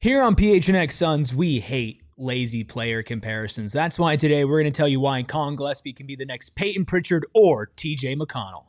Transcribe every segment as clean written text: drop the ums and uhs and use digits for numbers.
Here on PHNX Suns, we hate lazy player comparisons. That's why today we're going to tell you why Colin Gillespie can be the next Peyton Pritchard or TJ McConnell.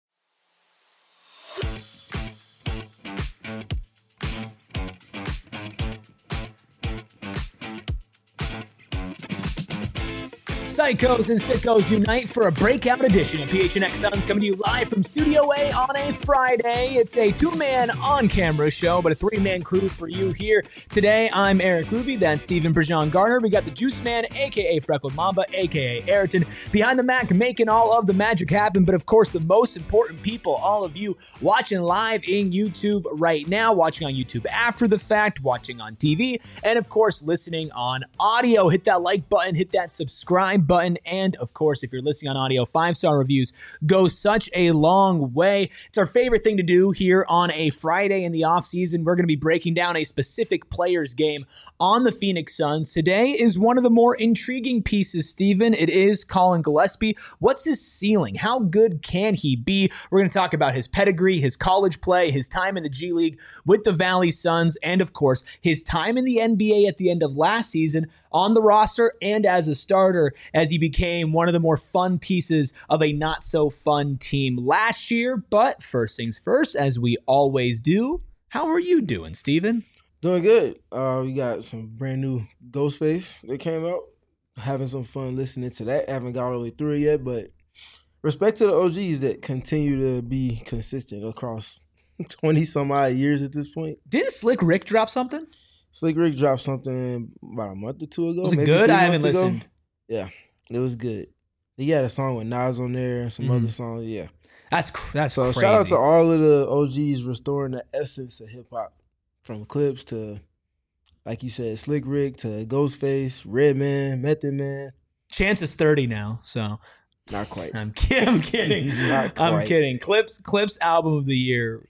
Psychos and sickos unite for a breakout edition of PHNX Suns, coming to you live from Studio A on a Friday. It's a two-man on-camera show, but a three-man crew for you here. Today, I'm Eric Ruby, that's Stephen Brejon Garner. We got the Juice Man, a.k.a. Freckled Mamba, a.k.a. Ayrton, behind the Mac, making all of the magic happen. But of course, the most important people, all of you watching live in YouTube right now, watching on YouTube after the fact, watching on TV, and of course, listening on audio. Hit that like button, hit that subscribe button, and of course, if you're listening on audio, 5-star reviews go such a long way. It's our favorite thing to do here on a Friday in the offseason. We're going to be breaking down a specific player's game on the Phoenix Suns. Today is one of the more intriguing pieces, Steven. It is Colin Gillespie. What's his ceiling? How good can he be? We're going to talk about his pedigree, his college play, his time in the G League with the Valley Suns, and of course, his time in the NBA at the end of last season on the roster and as a starter, as he became one of the more fun pieces of a not-so-fun team last year. But first things first, as we always do, how are you doing, Steven? Doing good. We got some brand new Ghostface that came out. Having some fun listening to that. Haven't got all the way through it yet, but respect to the OGs that continue to be consistent across 20-some-odd years at this point. Didn't Slick Rick drop something? Slick Rick dropped something about a month or two ago. Was it good? I haven't listened. Yeah, it was good. He had a song with Nas on there and some other songs. Yeah, that's so crazy. Shout out to all of the OGs restoring the essence of hip hop, from Clips to, like you said, Slick Rick to Ghostface, Redman, Method Man. Chance is 30 now, so not quite. I'm kidding. Not quite. I'm kidding. Clips album of the year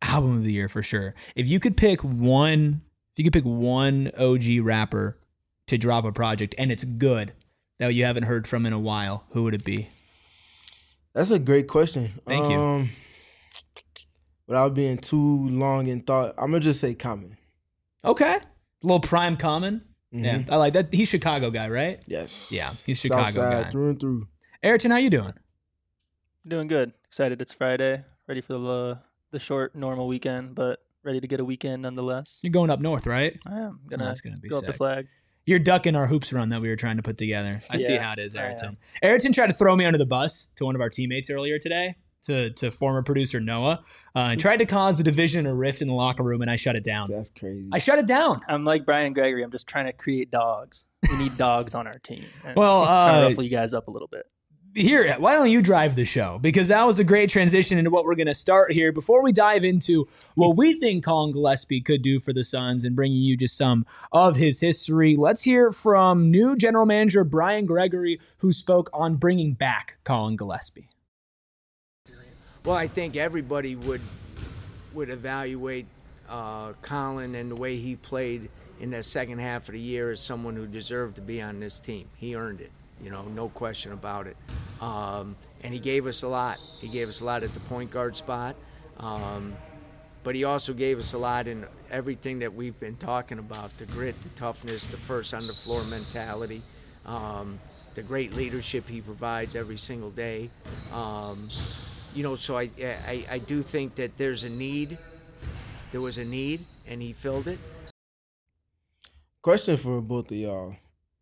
for sure. If you could pick one OG rapper to drop a project and it's good that you haven't heard from in a while, who would it be? That's a great question. Thank you. Without being too long in thought, I'm gonna just say Common. Okay, a little prime Common. Mm-hmm. Yeah, I like that. He's Chicago guy, right? Yes. Yeah, he's Chicago Southside, guy. Through and through. Ayrton, how you doing? Doing good. Excited it's Friday. Ready for the short, normal weekend, but ready to get a weekend nonetheless. You're going up north, right? I am. That's gonna be go sick. up the flag. You're ducking our hoops run that we were trying to put together. I see how it is, I Ayrton. Ayrton tried to throw me under the bus to one of our teammates earlier today, to former producer Noah, and tried to cause a division or rift in the locker room, and I shut it down. That's crazy. I shut it down. I'm like Brian Gregory. I'm just trying to create dogs. We need dogs on our team. Well, trying to ruffle you guys up a little bit. Here, why don't you drive the show? Because that was a great transition into what we're going to start here. Before we dive into what we think Colin Gillespie could do for the Suns and bringing you just some of his history, let's hear from new general manager Brian Gregory, who spoke on bringing back Colin Gillespie. Well, I think everybody would evaluate Colin and the way he played in the second half of the year as someone who deserved to be on this team. He earned it. No question about it. And he gave us a lot. He gave us a lot at the point guard spot. But he also gave us a lot in everything that we've been talking about, the grit, the toughness, the first on the floor mentality, the great leadership he provides every single day. So I do think that there's a need. There was a need, and he filled it. Question for both of y'all.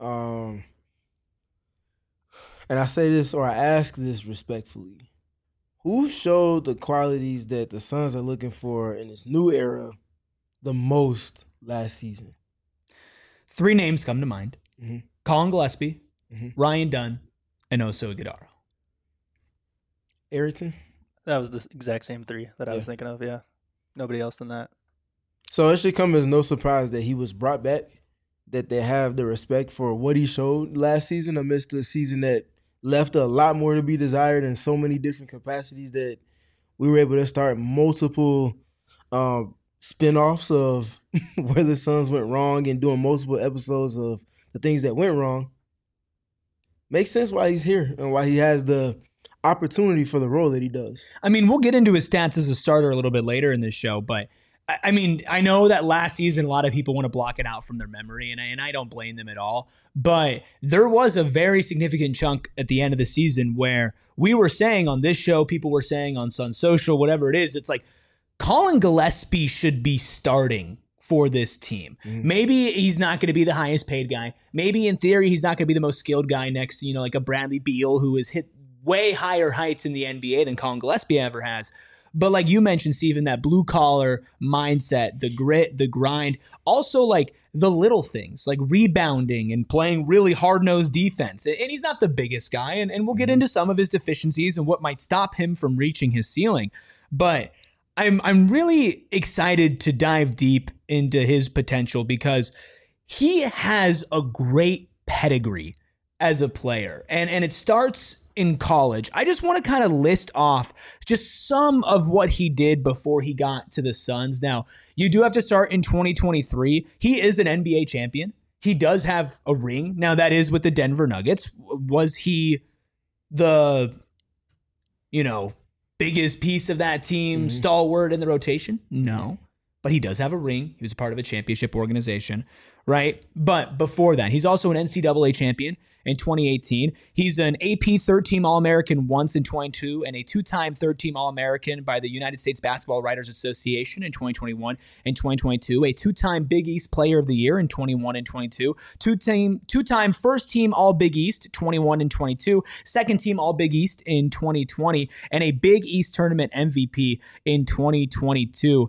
And I say this, or I ask this respectfully. Who showed the qualities that the Suns are looking for in this new era the most last season? 3 names come to mind. Mm-hmm. Colin Gillespie, Mm-hmm. Ryan Dunn, and Oso Iguodala. Ayrton? That was the exact same 3 that I was thinking of, yeah. Nobody else than that. So it should come as no surprise that he was brought back, that they have the respect for what he showed last season amidst the season that left a lot more to be desired in so many different capacities, that we were able to start multiple spinoffs of where the Suns went wrong and doing multiple episodes of the things that went wrong. Makes sense why he's here and why he has the opportunity for the role that he does. I mean, we'll get into his stats as a starter a little bit later in this show, but I mean, I know that last season, a lot of people want to block it out from their memory, and I don't blame them at all. But there was a very significant chunk at the end of the season where we were saying on this show, people were saying on Sun Social, whatever it is, it's like Colin Gillespie should be starting for this team. Maybe he's not going to be the highest paid guy. Maybe in theory, he's not going to be the most skilled guy next to, like a Bradley Beal who has hit way higher heights in the NBA than Colin Gillespie ever has. But like you mentioned, Steven, that blue collar mindset, the grit, the grind, also like the little things like rebounding and playing really hard-nosed defense. And he's not the biggest guy, and we'll get into some of his deficiencies and what might stop him from reaching his ceiling. But I'm really excited to dive deep into his potential because he has a great pedigree as a player. And it starts in college. I just want to kind of list off just some of what he did before he got to the Suns. Now, you do have to start in 2023. He is an NBA champion. He does have a ring. Now, that is with the Denver Nuggets. Was he the, biggest piece of that team, stalwart in the rotation? No. But he does have a ring. He was a part of a championship organization, right? But before that, he's also an NCAA champion in 2018. He's an AP third-team All-American once in 2022 and a two-time third-team All-American by the United States Basketball Writers Association in 2021 and 2022, a two-time Big East Player of the Year in 21 and 22, two-time first-team All-Big East 21 and 22, second-team All-Big East in 2020, and a Big East Tournament MVP in 2022.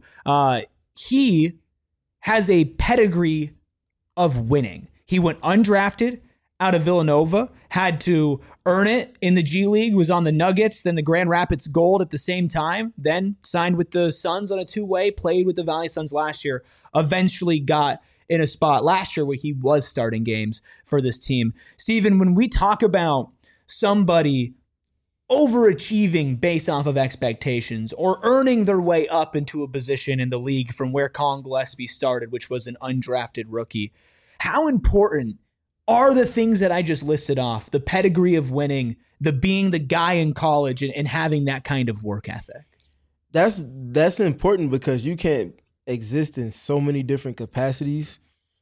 He has a pedigree of winning. He went undrafted out of Villanova, had to earn it in the G League, was on the Nuggets, then the Grand Rapids Gold at the same time, then signed with the Suns on a two-way, played with the Valley Suns last year, eventually got in a spot last year where he was starting games for this team. Steven, when we talk about somebody overachieving based off of expectations or earning their way up into a position in the league from where Colin Gillespie started, which was an undrafted rookie, how important are the things that I just listed off, the pedigree of winning, the being the guy in college and having that kind of work ethic? That's important because you can't exist in so many different capacities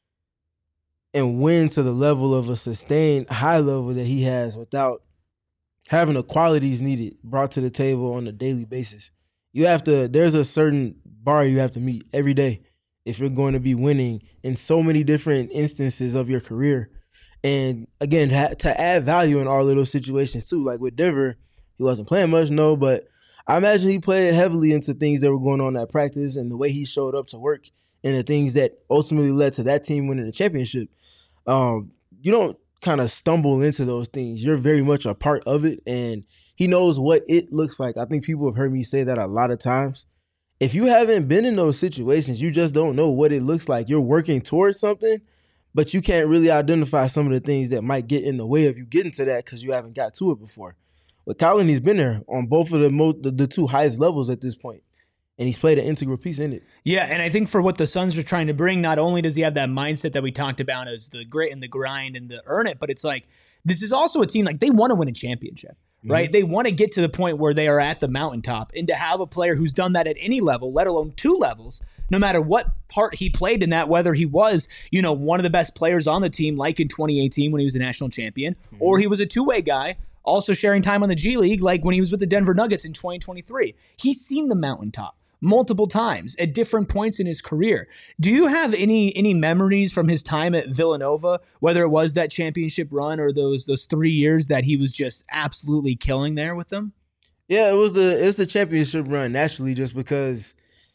and win to the level of a sustained high level that he has without having the qualities needed brought to the table on a daily basis. There's a certain bar you have to meet every day if you're going to be winning in so many different instances of your career. And again, to add value in all of those situations too. Like with Denver, he wasn't playing much, no, but I imagine he played heavily into things that were going on at practice and the way he showed up to work and the things that ultimately led to that team winning the championship. You don't kind of stumble into those things. You're very much a part of it, and he knows what it looks like. I think people have heard me say that a lot of times. If you haven't been in those situations, you just don't know what it looks like. You're working towards something, but you can't really identify some of the things that might get in the way of you getting to that because you haven't got to it before. With Colin, he's been there on both of the two highest levels at this point, and he's played an integral piece in it. Yeah, and I think for what the Suns are trying to bring, not only does he have that mindset that we talked about as the grit and the grind and the earn it, but it's like this is also a team like they want to win a championship, right? Mm-hmm. They want to get to the point where they are at the mountaintop, and to have a player who's done that at any level, let alone two levels, no matter what part he played in that, whether he was, one of the best players on the team, like in 2018 when he was a national champion, or he was a two-way guy, also sharing time on the G League, like when he was with the Denver Nuggets in 2023. He's seen the mountaintop multiple times at different points in his career. Do you have any memories from his time at Villanova, whether it was that championship run or those 3 years that he was just absolutely killing there with them? Yeah, it's the championship run naturally, just because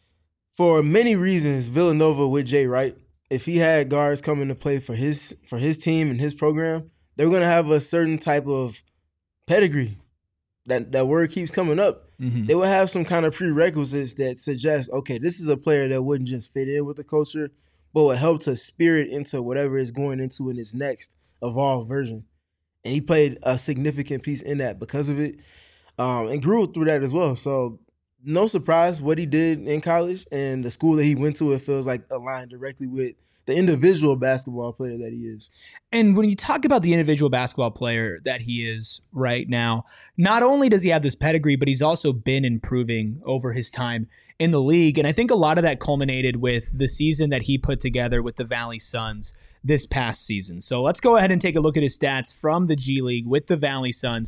for many reasons, Villanova with Jay Wright, if he had guards coming to play for his team and his program, they were going to have a certain type of pedigree. That word keeps coming up. Mm-hmm. They would have some kind of prerequisites that suggest, okay, this is a player that wouldn't just fit in with the culture, but would help to spirit into whatever it's going into in its next evolved version. And he played a significant piece in that because of it, and grew through that as well. So no surprise what he did in college and the school that he went to, it feels like aligned directly with the individual basketball player that he is. And when you talk about the individual basketball player that he is right now, not only does he have this pedigree, but he's also been improving over his time in the league. And I think a lot of that culminated with the season that he put together with the Valley Suns this past season. So let's go ahead and take a look at his stats from the G League with the Valley Suns.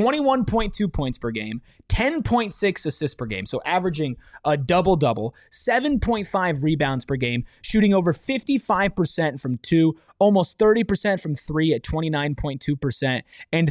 21.2 points per game, 10.6 assists per game, so averaging a double-double, 7.5 rebounds per game, shooting over 55% from 2, almost 30% from 3 at 29.2%, and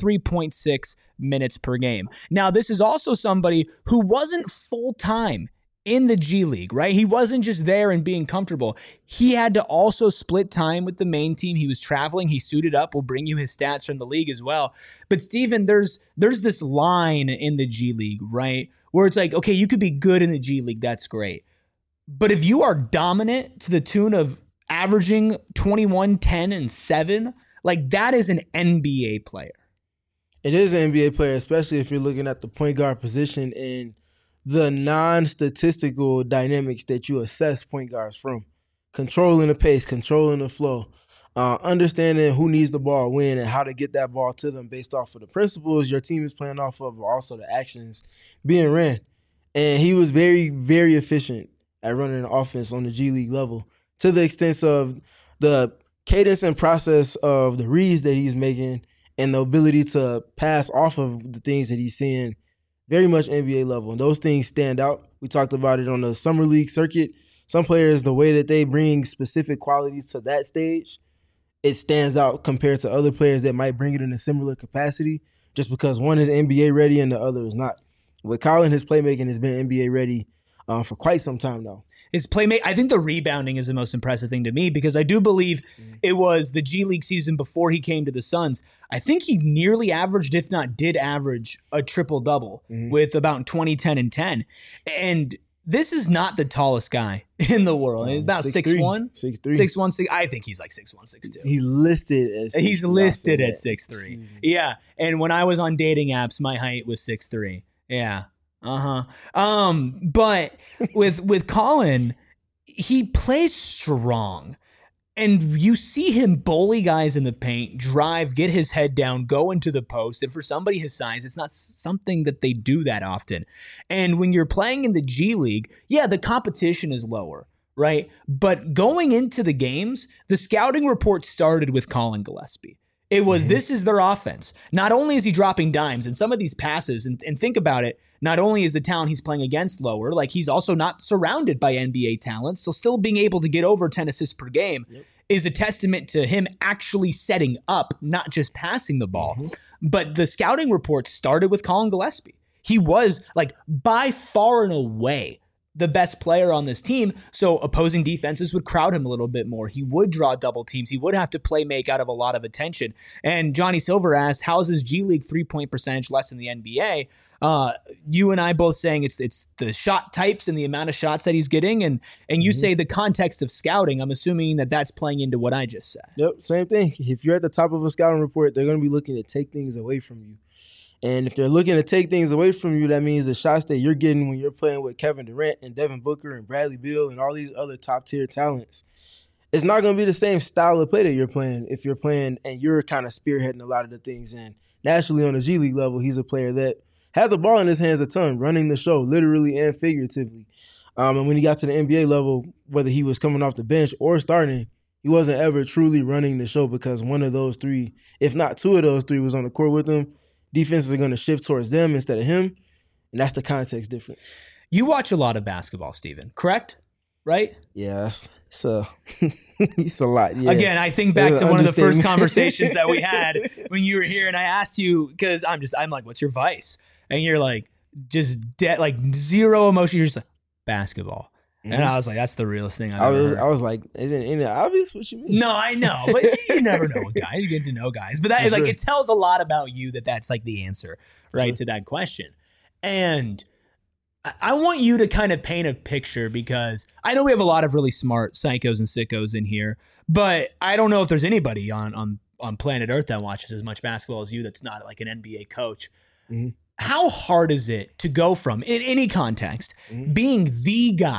33.6 minutes per game. Now, this is also somebody who wasn't full-time in the G League, right? He wasn't just there and being comfortable. He had to also split time with the main team. He was traveling. He suited up. We'll bring you his stats from the league as well. But Steven, there's this line in the G League, right? Where it's like, okay, you could be good in the G League. That's great. But if you are dominant to the tune of averaging 21, 10, and 7, like that is an NBA player. It is an NBA player, especially if you're looking at the point guard position and the non-statistical dynamics that you assess point guards from. Controlling the pace, controlling the flow, understanding who needs the ball when and how to get that ball to them based off of the principles your team is playing off of, but also the actions being ran. And he was very, very efficient at running an offense on the G League level to the extent of the cadence and process of the reads that he's making and the ability to pass off of the things that he's seeing. Very much NBA level. And those things stand out. We talked about it on the summer league circuit. Some players, the way that they bring specific qualities to that stage, it stands out compared to other players that might bring it in a similar capacity just because one is NBA ready and the other is not. With Colin, his playmaking has been NBA ready for quite some time now. His playmate, I think the rebounding is the most impressive thing to me because I do believe it was the G League season before he came to the Suns. I think he nearly averaged, if not did average, a triple-double with about 20, 10, and 10. And this is not the tallest guy in the world. He's about 6'1". 6'3". 6'1", I think he's like 6'1", 6'2". He's listed at 6'3". He's listed at 6'3". Yeah, and when I was on dating apps, my height was 6'3". Yeah. But with Colin, he plays strong. And you see him bully guys in the paint, drive, get his head down, go into the post. And for somebody his size, it's not something that they do that often. And when you're playing in the G League, yeah, the competition is lower, right? But going into the games, the scouting report started with Colin Gillespie. It was, this is their offense. Not only is he dropping dimes and some of these passes, and think about it, not only is the talent he's playing against lower, like he's also not surrounded by NBA talent, so still being able to get over 10 assists per game is a testament to him actually setting up, not just passing the ball. But the scouting report started with Colin Gillespie. He was like by far and away the best player on this team, so opposing defenses would crowd him a little bit more. He would draw double teams. He would have to play make out of a lot of attention. And Johnny Silver asked, how's his G League three-point percentage less than the NBA? You and I both saying it's the shot types and the amount of shots that he's getting, and you say the context of scouting. I'm assuming that that's playing into what I just said. Yep, same thing. If you're at the top of a scouting report, they're going to be looking to take things away from you. And if they're looking to take things away from you, that means the shots that you're getting when you're playing with Kevin Durant and Devin Booker and Bradley Beal and all these other top-tier talents, it's not going to be the same style of play that you're playing if you're playing and you're kind of spearheading a lot of the things. And naturally on the G League level, he's a player that had the ball in his hands a ton, running the show, literally and figuratively. And when he got to the NBA level, whether he was coming off the bench or starting, he wasn't ever truly running the show because one of those three, if not two of those three, was on the court with him. Defenses are going to shift towards them instead of him, and that's the context difference. You watch a lot of basketball, Steven, correct? Right? Yeah, it's a lot. Yeah. Again, I think back to one of the first conversations that we had when you were here, and I asked you, because I'm like, what's your vice? And you're like, just like zero emotion. You're just like, basketball. And I was like, that's the realest thing I've ever heard. I was like, isn't it obvious what you mean? No, I know, but you never know with guys. You get to know guys. But that is like, it tells a lot about you that's like the answer, right, to that question. And I want you to kind of paint a picture because I know we have a lot of really smart psychos and sickos in here, but I don't know if there's anybody on planet Earth that watches as much basketball as you that's not like an NBA coach. How hard is it to go from, in any context, being the guy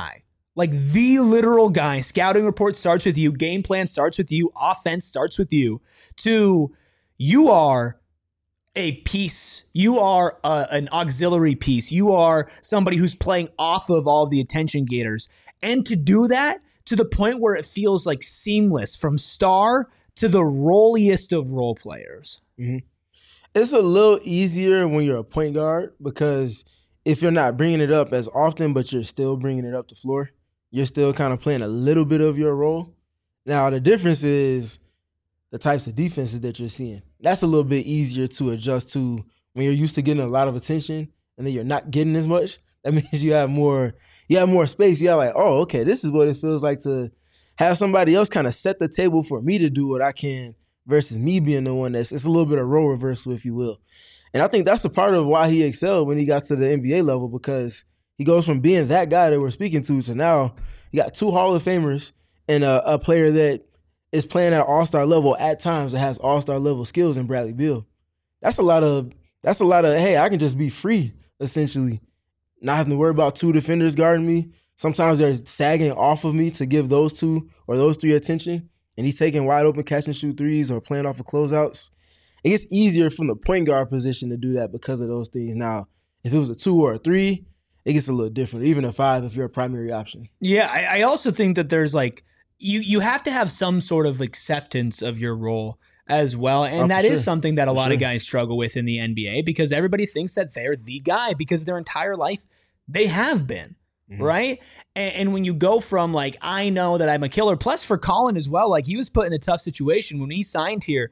like the literal guy, scouting report starts with you, game plan starts with you, offense starts with you, to you are a piece, you are an auxiliary piece, you are somebody who's playing off of all of the attention gators. And to do that to the point where it feels like seamless from star to the rolliest of role players. Mm-hmm. It's a little easier when you're a point guard because if you're not bringing it up as often, but you're still bringing it up the floor, you're still kind of playing a little bit of your role. Now, the difference is the types of defenses that you're seeing. That's a little bit easier to adjust to when you're used to getting a lot of attention and then you're not getting as much. That means you have more space. You have like, oh, okay, this is what it feels like to have somebody else kind of set the table for me to do what I can versus me being the one it's a little bit of role reversal, if you will. And I think that's a part of why he excelled when he got to the NBA level, because he goes from being that guy that we're speaking to now you got 2 Hall of Famers and a player that is playing at all-star level at times that has all-star level skills in Bradley Beal. That's a lot of, hey, I can just be free, essentially. Not having to worry about 2 defenders guarding me. Sometimes they're sagging off of me to give those 2 or those 3 attention, and he's taking wide open catch and shoot threes or playing off of closeouts. It gets easier from the point guard position to do that because of those things. Now, if it was a 2 or a 3, it gets a little different, even a 5 if you're a primary option. Yeah, I also think that there's like, you have to have some sort of acceptance of your role as well. And that is something that a lot of guys struggle with in the NBA, because everybody thinks that they're the guy because their entire life they have been. Right. And when you go from like, I know that I'm a killer, plus for Colin as well, like he was put in a tough situation when he signed here,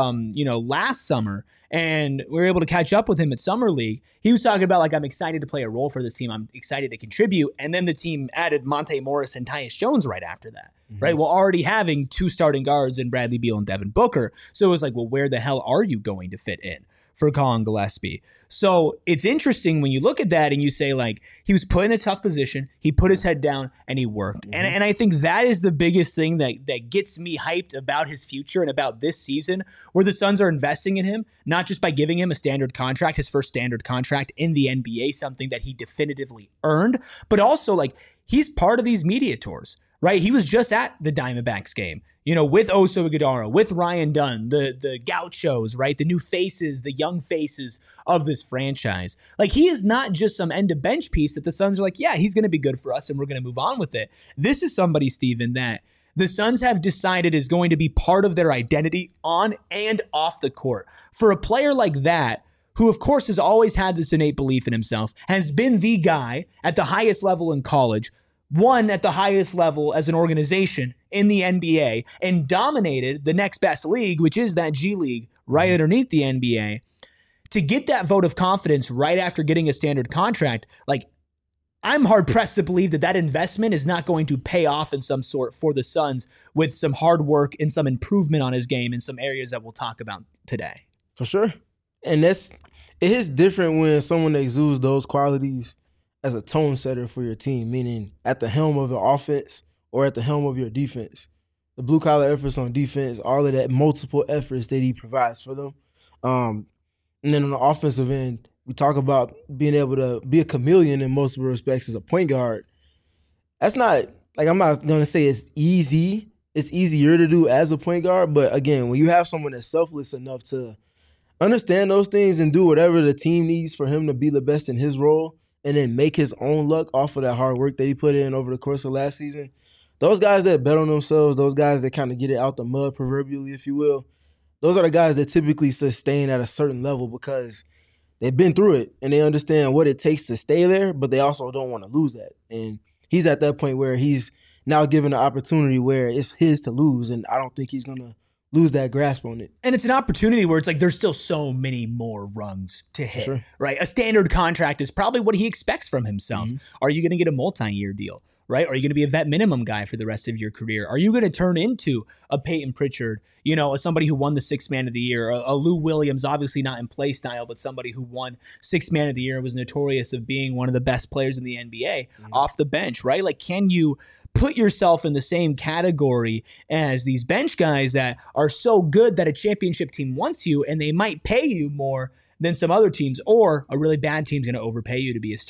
last summer, and we were able to catch up with him at Summer League. He was talking about like, I'm excited to play a role for this team. I'm excited to contribute. And then the team added Monte Morris and Tyus Jones right after that. Right. Well, already having 2 starting guards in Bradley Beal and Devin Booker. So it was like, well, where the hell are you going to fit in for Colin Gillespie? So it's interesting when you look at that and you say, like, he was put in a tough position, he put his head down, and he worked. And I think that is the biggest thing that gets me hyped about his future and about this season, where the Suns are investing in him, not just by giving him a standard contract, his first standard contract in the NBA, something that he definitively earned, but also, like, he's part of these media tours. Right, he was just at the Diamondbacks game, with Oso Ighodaro, with Ryan Dunn, the Gauchos, right, the new faces, the young faces of this franchise. Like, he is not just some end of bench piece that the Suns are like, yeah, he's going to be good for us and we're going to move on with it. This is somebody, Steven, that the Suns have decided is going to be part of their identity on and off the court. For a player like that, who of course has always had this innate belief in himself, has been the guy at the highest level in college, won at the highest level as an organization in the NBA, and dominated the next best league, which is that G League right underneath the NBA, to get that vote of confidence right after getting a standard contract, like, I'm hard-pressed to believe that investment is not going to pay off in some sort for the Suns with some hard work and some improvement on his game in some areas that we'll talk about today. For sure. And it is different when someone exudes those qualities as a tone setter for your team, meaning at the helm of your offense or at the helm of your defense. The blue-collar efforts on defense, all of that multiple efforts that he provides for them. And then on the offensive end, we talk about being able to be a chameleon in multiple respects as a point guard. That's not, like, I'm not going to say it's easy. It's easier to do as a point guard. But, again, when you have someone that's selfless enough to understand those things and do whatever the team needs for him to be the best in his role, and then make his own luck off of that hard work that he put in over the course of last season, those guys that bet on themselves, those guys that kind of get it out the mud proverbially, if you will, those are the guys that typically sustain at a certain level because they've been through it and they understand what it takes to stay there, but they also don't want to lose that. And he's at that point where he's now given an opportunity where it's his to lose, and I don't think he's going to lose that grasp on it. And it's an opportunity where it's like there's still so many more rungs to hit, right? A standard contract is probably what he expects from himself. Are you going to get a multi-year deal, right? Are you going to be a vet minimum guy for the rest of your career? Are you going to turn into a Peyton Pritchard, somebody who won the Sixth Man of the Year, a Lou Williams, obviously not in play style, but somebody who won Sixth Man of the Year, was notorious of being one of the best players in the NBA off the bench, right? Like, can you put yourself in the same category as these bench guys that are so good that a championship team wants you and they might pay you more than some other teams, or a really bad team's going to overpay you to be a starter,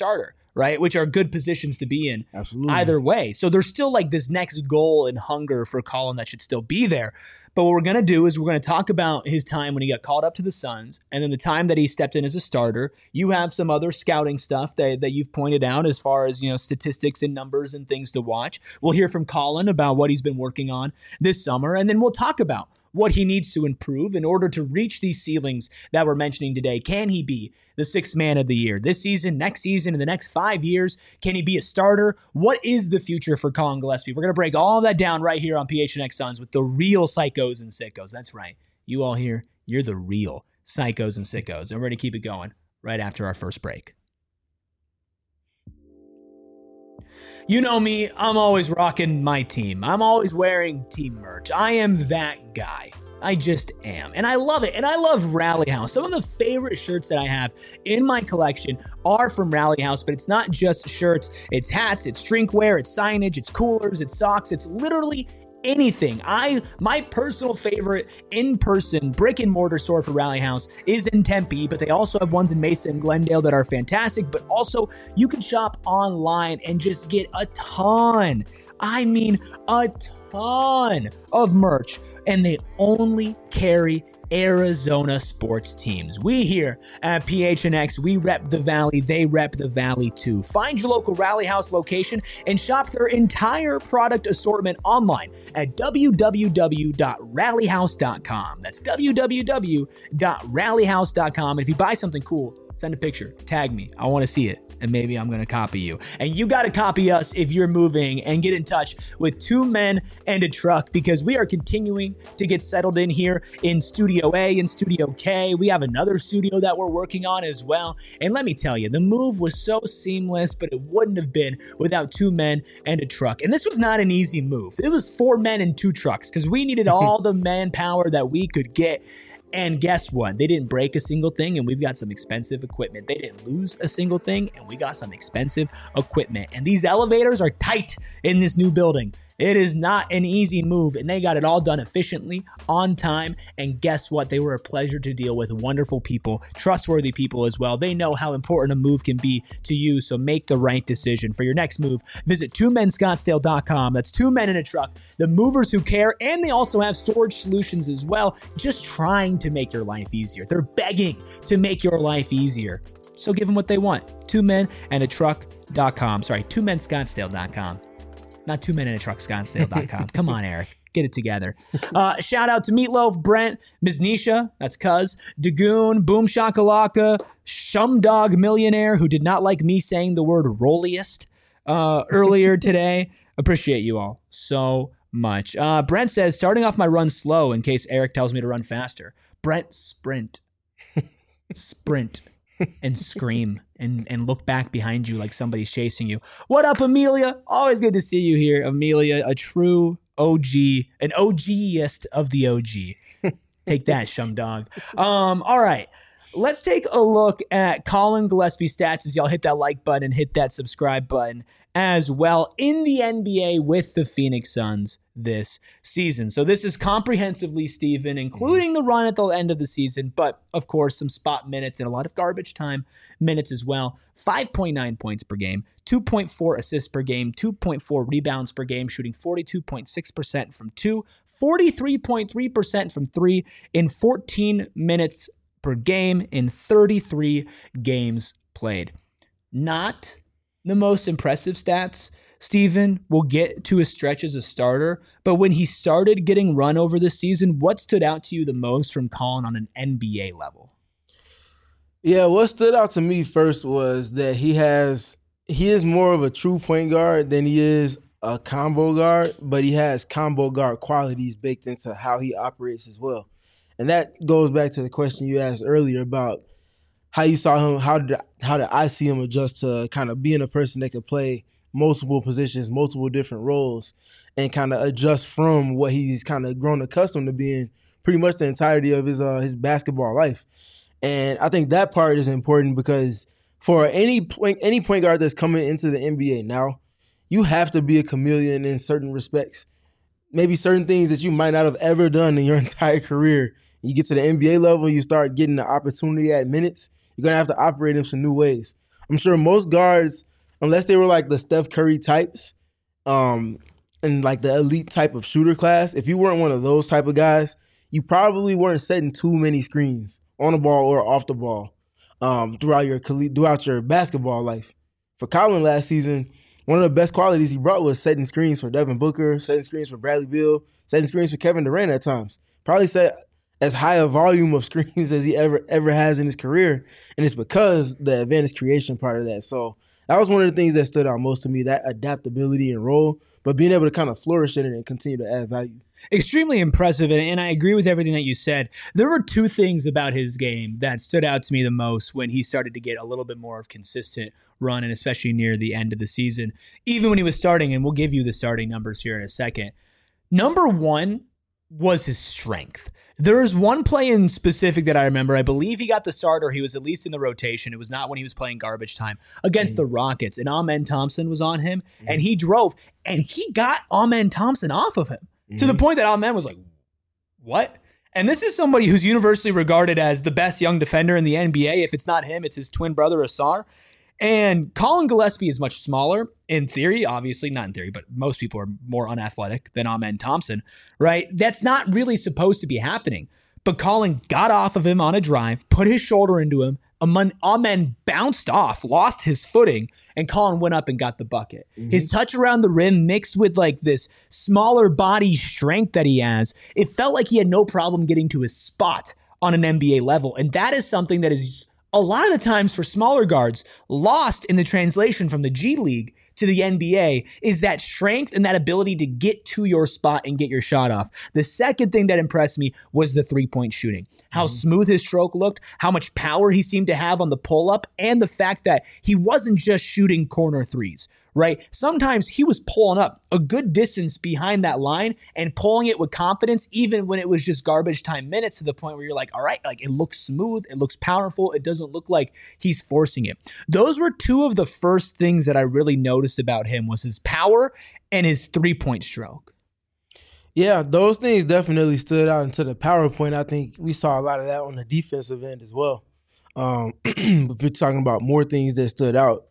right? Which are good positions to be in. Absolutely. Either way. So there's still like this next goal and hunger for Colin that should still be there. But what we're going to do is we're going to talk about his time when he got called up to the Suns and then the time that he stepped in as a starter. You have some other scouting stuff that you've pointed out as far as, statistics and numbers and things to watch. We'll hear from Colin about what he's been working on this summer, and then we'll talk about what he needs to improve in order to reach these ceilings that we're mentioning today. Can he be the sixth man of the year this season, next season, in the next 5 years? Can he be a starter? What is the future for Colin Gillespie? We're going to break all of that down right here on PHNX Suns with the real psychos and sickos. That's right. You all here, you're the real psychos and sickos. And we're going to keep it going right after our first break. You know me, I'm always rocking my team. I'm always wearing team merch. I am that guy. I just am. And I love it. And I love Rally House. Some of the favorite shirts that I have in my collection are from Rally House, but it's not just shirts. It's hats, it's drinkware, it's signage, it's coolers, it's socks. It's literally anything. My personal favorite in-person brick and mortar store for Rally House is in Tempe, but they also have ones in Mesa and Glendale that are fantastic. But also you can shop online and just get a ton of merch, and they only carry Arizona sports teams. We here at PHNX, we rep the Valley, they rep the Valley too. Find your local Rally House location and shop their entire product assortment online at www.rallyhouse.com. That's www.rallyhouse.com. And if you buy something cool, send a picture, tag me. I want to see it, and maybe I'm going to copy you. And you got to copy us if you're moving, and get in touch with Two Men and a Truck, because we are continuing to get settled in here in Studio A and Studio K. We have another studio that we're working on as well. And let me tell you, the move was so seamless, but it wouldn't have been without Two Men and a Truck. And this was not an easy move. It was 4 men and 2 trucks because we needed all the manpower that we could get. And guess what? They didn't break a single thing, and we've got some expensive equipment. They didn't lose a single thing, and we got some expensive equipment. And these elevators are tight in this new building. It is not an easy move, and they got it all done efficiently, on time, and guess what? They were a pleasure to deal with. Wonderful people, trustworthy people as well. They know how important a move can be to you, so make the right decision. For your next move, visit twomenscottsdale.com. That's 2 Men in a Truck, the movers who care, and they also have storage solutions as well, just trying to make your life easier. They're begging to make your life easier. So give them what they want. 2menandatruck.com. Sorry, 2menscottsdale.com. Not 2 Men in a Truck, Scottsdale.com. Come on, Eric. Get it together. Shout out to Meatloaf, Brent, Ms. Nisha, that's Cuz, Dagoon, Boom Shakalaka, Shumdog Millionaire, who did not like me saying the word rolliest earlier today. Appreciate you all so much. Brent says, starting off my run slow in case Eric tells me to run faster. Brent, sprint. Sprint. And scream and look back behind you like somebody's chasing you. What up, Amelia? Always good to see you here, Amelia, a true OG, an OG-ist of the OG. Take that, Shumdog. All right. Let's take a look at Colin Gillespie's stats as y'all hit that like button and hit that subscribe button as well in the NBA with the Phoenix Suns this season. So this is comprehensively, Steven, including the run at the end of the season, but of course some spot minutes and a lot of garbage time minutes as well. 5.9 points per game, 2.4 assists per game, 2.4 rebounds per game, shooting 42.6% from 2, 43.3% from 3 in 14 minutes per game in 33 games played. Not the most impressive stats. Steven will get to his stretch as a starter, but when he started getting run over this season, what stood out to you the most from Colin on an NBA level? Yeah, what stood out to me first was that he is more of a true point guard than he is a combo guard, but he has combo guard qualities baked into how he operates as well. And that goes back to the question you asked earlier about how you saw him, how did I see him adjust to kind of being a person that could play multiple positions, multiple different roles, and kind of adjust from what he's kind of grown accustomed to being pretty much the entirety of his basketball life. And I think that part is important because for any point guard that's coming into the NBA now, you have to be a chameleon in certain respects. Maybe certain things that you might not have ever done in your entire career. You get to the NBA level, you start getting the opportunity at minutes, you're going to have to operate in some new ways. I'm sure most guards unless they were like the Steph Curry types, and like the elite type of shooter class, if you weren't one of those type of guys, you probably weren't setting too many screens on the ball or off the ball throughout your basketball life. For Colin last season, one of the best qualities he brought was setting screens for Devin Booker, setting screens for Bradley Beal, setting screens for Kevin Durant at times. Probably set as high a volume of screens as he ever has in his career, and it's because the advantage creation part of that. So that was one of the things that stood out most to me, that adaptability and role, but being able to kind of flourish in it and continue to add value. Extremely impressive, and I agree with everything that you said. There were two things about his game that stood out to me the most when he started to get a little bit more of consistent run, and especially near the end of the season, even when he was starting, and we'll give you the starting numbers here in a second. Number one was his strength. There's one play in specific that I remember. I believe he got the start, or he was at least in the rotation. It was not when he was playing garbage time against the Rockets, and Amen Thompson was on him, and he drove, and he got Amen Thompson off of him to the point that Amen was like, what? And this is somebody who's universally regarded as the best young defender in the NBA. If it's not him, it's his twin brother, Asar. And Colin Gillespie is much smaller in theory, obviously not in theory, but most people are more unathletic than Amen Thompson, right? That's not really supposed to be happening. But Colin got off of him on a drive, put his shoulder into him. Amen bounced off, lost his footing, and Colin went up and got the bucket. His touch around the rim mixed with like this smaller body strength that he has, it felt like he had no problem getting to his spot on an NBA level. And that is something that is a lot of the times for smaller guards lost in the translation from the G League to the NBA, is that strength and that ability to get to your spot and get your shot off. The second thing that impressed me was the three-point shooting. How smooth his stroke looked, how much power he seemed to have on the pull-up, and the fact that he wasn't just shooting corner threes, right? Sometimes he was pulling up a good distance behind that line and pulling it with confidence, even when it was just garbage time minutes, to the point where you're like, all right, like it looks smooth, it looks powerful, it doesn't look like he's forcing it. Those were two of the first things that I really noticed about him, was his power and his three-point stroke. Yeah, those things definitely stood out. Into the PowerPoint, I think we saw a lot of that on the defensive end as well. If you're talking about more things that stood out,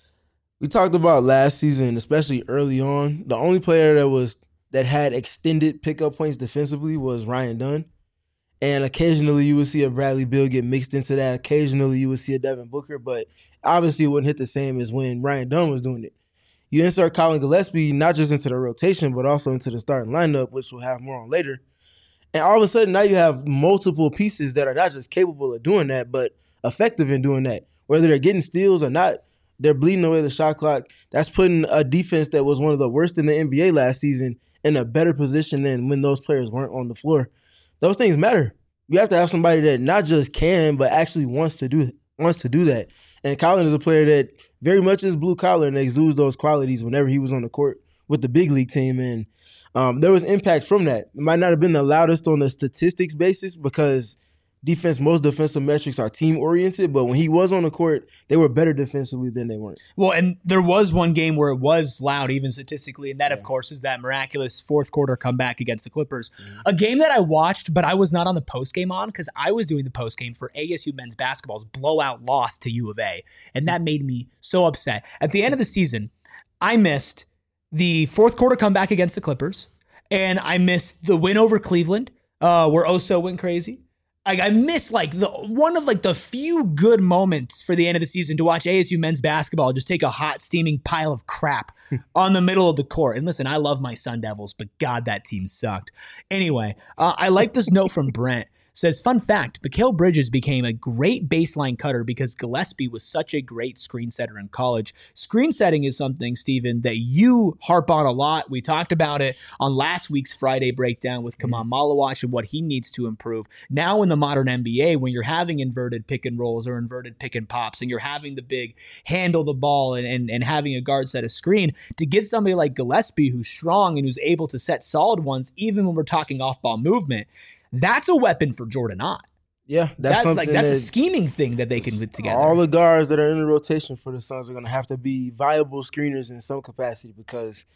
we talked about last season, especially early on, the only player that had extended pickup points defensively was Ryan Dunn. And occasionally you would see a Bradley Beal get mixed into that. Occasionally you would see a Devin Booker, but obviously it wouldn't hit the same as when Ryan Dunn was doing it. You insert Colin Gillespie not just into the rotation, but also into the starting lineup, which we'll have more on later. And all of a sudden now you have multiple pieces that are not just capable of doing that, but effective in doing that. Whether they're getting steals or not, they're bleeding away the shot clock. That's putting a defense that was one of the worst in the NBA last season in a better position than when those players weren't on the floor. Those things matter. You have to have somebody that not just can, but actually wants to do that. And Colin is a player that very much is blue collar and exudes those qualities whenever he was on the court with the big league team. And there was impact from that. It might not have been the loudest on the statistics basis because most defensive metrics are team-oriented, but when he was on the court, they were better defensively than they weren't. Well, and there was one game where it was loud, even statistically, and that, of course, is that miraculous fourth quarter comeback against the Clippers. A game that I watched, but I was not on the postgame on because I was doing the postgame for ASU men's basketball's blowout loss to U of A, and that made me so upset. At the end of the season, I missed the fourth quarter comeback against the Clippers, and I missed the win over Cleveland, where Oso went crazy. I missed one of the few good moments for the end of the season to watch ASU men's basketball just take a hot steaming pile of crap on the middle of the court. And listen, I love my Sun Devils, but God, that team sucked. Anyway, I like this note from Brent. Says, fun fact, Mikal Bridges became a great baseline cutter because Gillespie was such a great screen setter in college. Screen setting is something, Steven, that you harp on a lot. We talked about it on last week's Friday breakdown with Kaman Malawach and what he needs to improve. Now in the modern NBA, when you're having inverted pick and rolls or inverted pick and pops, and you're having the big handle the ball and having a guard set a screen, to get somebody like Gillespie who's strong and who's able to set solid ones, even when we're talking off-ball movement, that's a weapon for Jordan Ott. Yeah, that's a scheming thing that they can put together. All the guards that are in the rotation for the Suns are going to have to be viable screeners in some capacity, because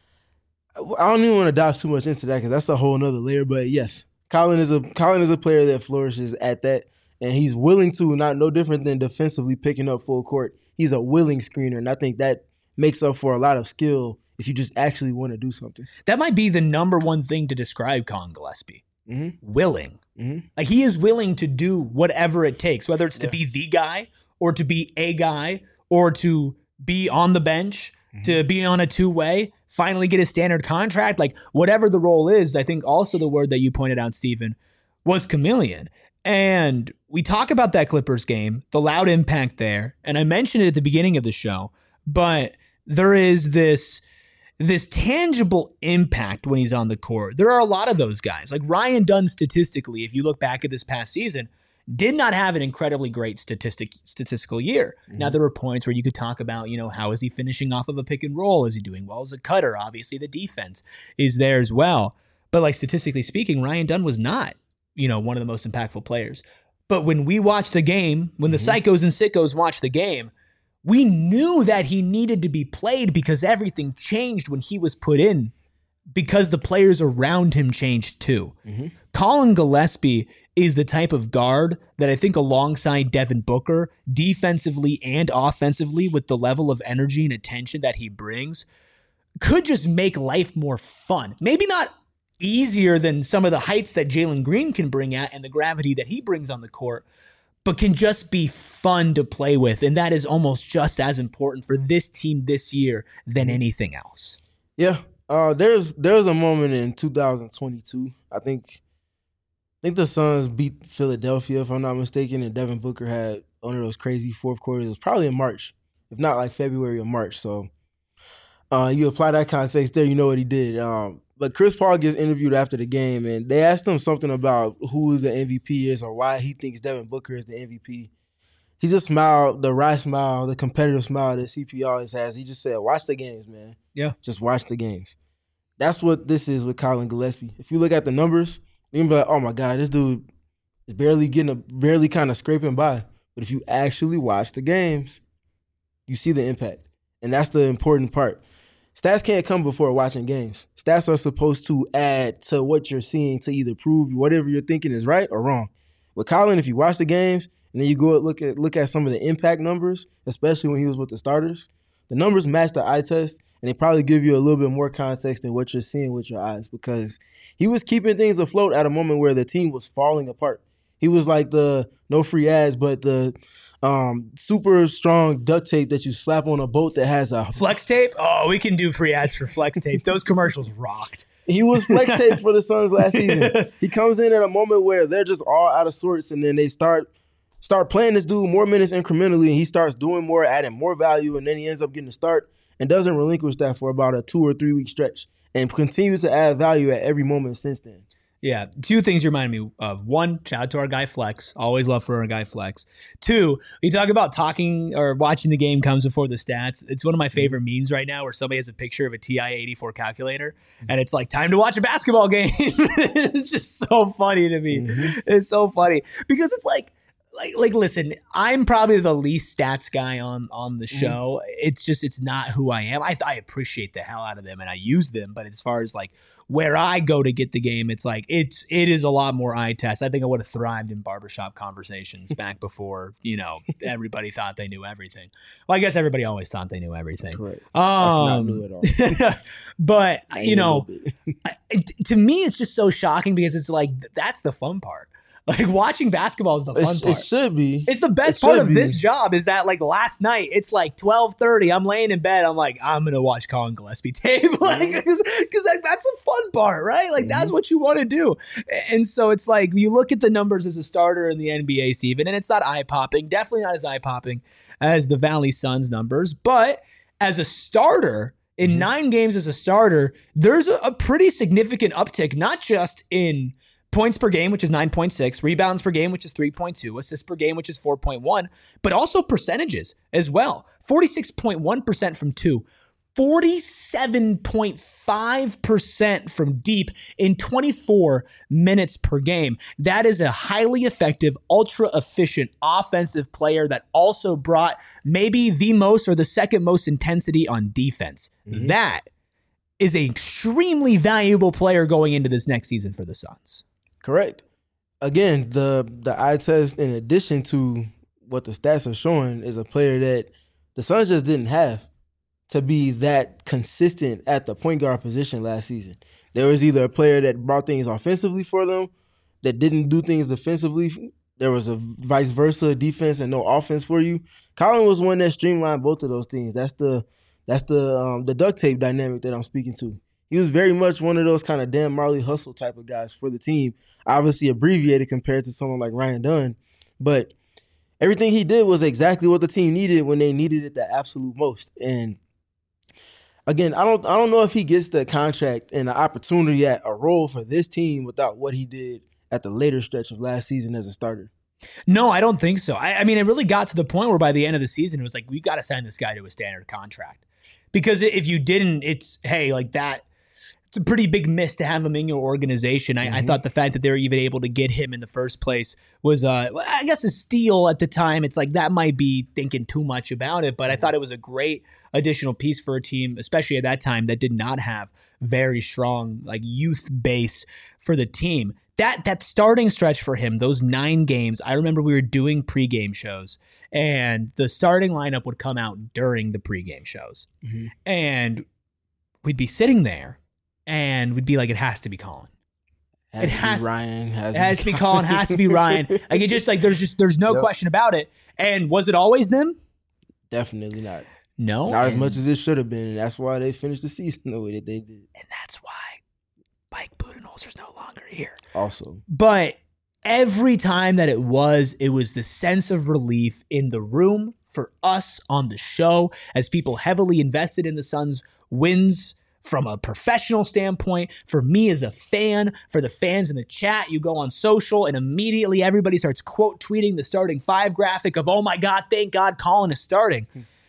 I don't even want to dive too much into that because that's a whole nother layer. But yes, Colin is a player that flourishes at that, and he's willing to, no different than defensively picking up full court. He's a willing screener, and I think that makes up for a lot of skill if you just actually want to do something. That might be the number one thing to describe Colin Gillespie. Mm-hmm. Willing. Mm-hmm. Like, he is willing to do whatever it takes, whether it's to be the guy or to be a guy or to be on the bench, to be on a two-way, finally get a standard contract. Like, whatever the role is, I think also the word that you pointed out, Stephen, was chameleon. And we talk about that Clippers game, the loud impact there, and I mentioned it at the beginning of the show, but there is this tangible impact when he's on the court. There are a lot of those guys. Like Ryan Dunn, statistically, if you look back at this past season, did not have an incredibly great statistical year. Now, there were points where you could talk about, how is he finishing off of a pick and roll? Is he doing well as a cutter? Obviously, the defense is there as well. But like statistically speaking, Ryan Dunn was not, one of the most impactful players. But when we watched the game, when the psychos and sickos watched the game, we knew that he needed to be played because everything changed when he was put in, because the players around him changed too. Colin Gillespie is the type of guard that I think, alongside Devin Booker, defensively and offensively, with the level of energy and attention that he brings, could just make life more fun. Maybe not easier than some of the heights that Jalen Green can bring at and the gravity that he brings on the court, but can just be fun to play with. And that is almost just as important for this team this year than anything else. Yeah. There's a moment in 2022. I think the Suns beat Philadelphia, if I'm not mistaken, and Devin Booker had one of those crazy fourth quarters. It was probably in March, if not like February or March. So you apply that context there, you know what he did. But Chris Paul gets interviewed after the game, and they asked him something about who the MVP is or why he thinks Devin Booker is the MVP. He just smiled, the wry smile, the competitive smile that CP always has. He just said, watch the games, man. Yeah. Just watch the games. That's what this is with Colin Gillespie. If you look at the numbers, you can be like, oh my God, this dude is barely kind of scraping by. But if you actually watch the games, you see the impact. And that's the important part. Stats can't come before watching games. Stats are supposed to add to what you're seeing to either prove whatever you're thinking is right or wrong. With Colin, if you watch the games and then you go look at some of the impact numbers, especially when he was with the starters, the numbers match the eye test, and they probably give you a little bit more context than what you're seeing with your eyes, because he was keeping things afloat at a moment where the team was falling apart. He was like the no free ads, but the super strong duct tape that you slap on a boat that has a Flex tape? Oh, we can do free ads for Flex tape. Those commercials rocked. He was flex tape for the Suns last season. He comes in at a moment where they're just all out of sorts, and then they start playing this dude more minutes incrementally, and he starts doing more, adding more value, and then he ends up getting a start and doesn't relinquish that for about a 2 or 3 week stretch and continues to add value at every moment since then. Yeah, two things you reminded me of. One, shout out to our guy Flex. Always love for our guy Flex. Two, we talk about talking or watching the game comes before the stats. It's one of my favorite memes right now where somebody has a picture of a TI-84 calculator and it's like, time to watch a basketball game. It's just so funny to me. It's so funny because it's like, listen, I'm probably the least stats guy on the show. It's not who I am. I appreciate the hell out of them and I use them, but as far as like where I go to get the game, it's like it is a lot more eye test. I think I would have thrived in barbershop conversations back before, everybody thought they knew everything. Well, I guess everybody always thought they knew everything. Correct. That's not new at all. But to me, it's just so shocking because it's like that's the fun part. Like watching basketball is the fun part. It should be. It's the best part of this job is that like last night, it's like 12:30. I'm laying in bed. I'm like, I'm going to watch Colin Gillespie tape. Like, because that's the fun part, right? Like that's what you want to do. And so it's like, you look at the numbers as a starter in the NBA, Steven, and it's not eye-popping. Definitely not as eye-popping as the Valley Suns numbers. But as a starter, in 9 games as a starter, there's a pretty significant uptick, not just in points per game, which is 9.6, rebounds per game, which is 3.2, assists per game, which is 4.1, but also percentages as well. 46.1% from 2, 47.5% from deep in 24 minutes per game. That is a highly effective, ultra efficient offensive player that also brought maybe the most or the second most intensity on defense. That is an extremely valuable player going into this next season for the Suns. Correct. Again, the eye test, in addition to what the stats are showing, is a player that the Suns just didn't have to be that consistent at the point guard position last season. There was either a player that brought things offensively for them that didn't do things defensively. There was a vice versa, defense and no offense for you. Colin was one that streamlined both of those things. That's the duct tape dynamic that I'm speaking to. He was very much one of those kind of Dan Marley hustle type of guys for the team. Obviously abbreviated compared to someone like Ryan Dunn, but everything he did was exactly what the team needed when they needed it the absolute most. And again, I don't know if he gets the contract and the opportunity at a role for this team without what he did at the later stretch of last season as a starter. No, I don't think so. I mean, it really got to the point where by the end of the season, it was like, we got to sign this guy to a standard contract. Because if you didn't, it's, hey, like that, it's a pretty big miss to have him in your organization. I thought the fact that they were even able to get him in the first place was, I guess, a steal at the time. It's like that might be thinking too much about it, but I thought it was a great additional piece for a team, especially at that time, that did not have very strong like youth base for the team. That starting stretch for him, those 9 games, I remember we were doing pregame shows, and the starting lineup would come out during the pregame shows, and we'd be sitting there. And we'd be like, it has to be Colin. It has to be Ryan. It has to be Colin. Has to be Ryan. Like it just like there's no question about it. And was it always them? Definitely not. No, not as much as it should have been. And that's why they finished the season the way that they did. And that's why Mike Budenholzer's no longer here. Also, but every time that it was the sense of relief in the room for us on the show as people heavily invested in the Suns' wins. From a professional standpoint, for me as a fan, for the fans in the chat, you go on social and immediately everybody starts quote tweeting the starting 5 graphic of, oh my God, thank God Colin is starting.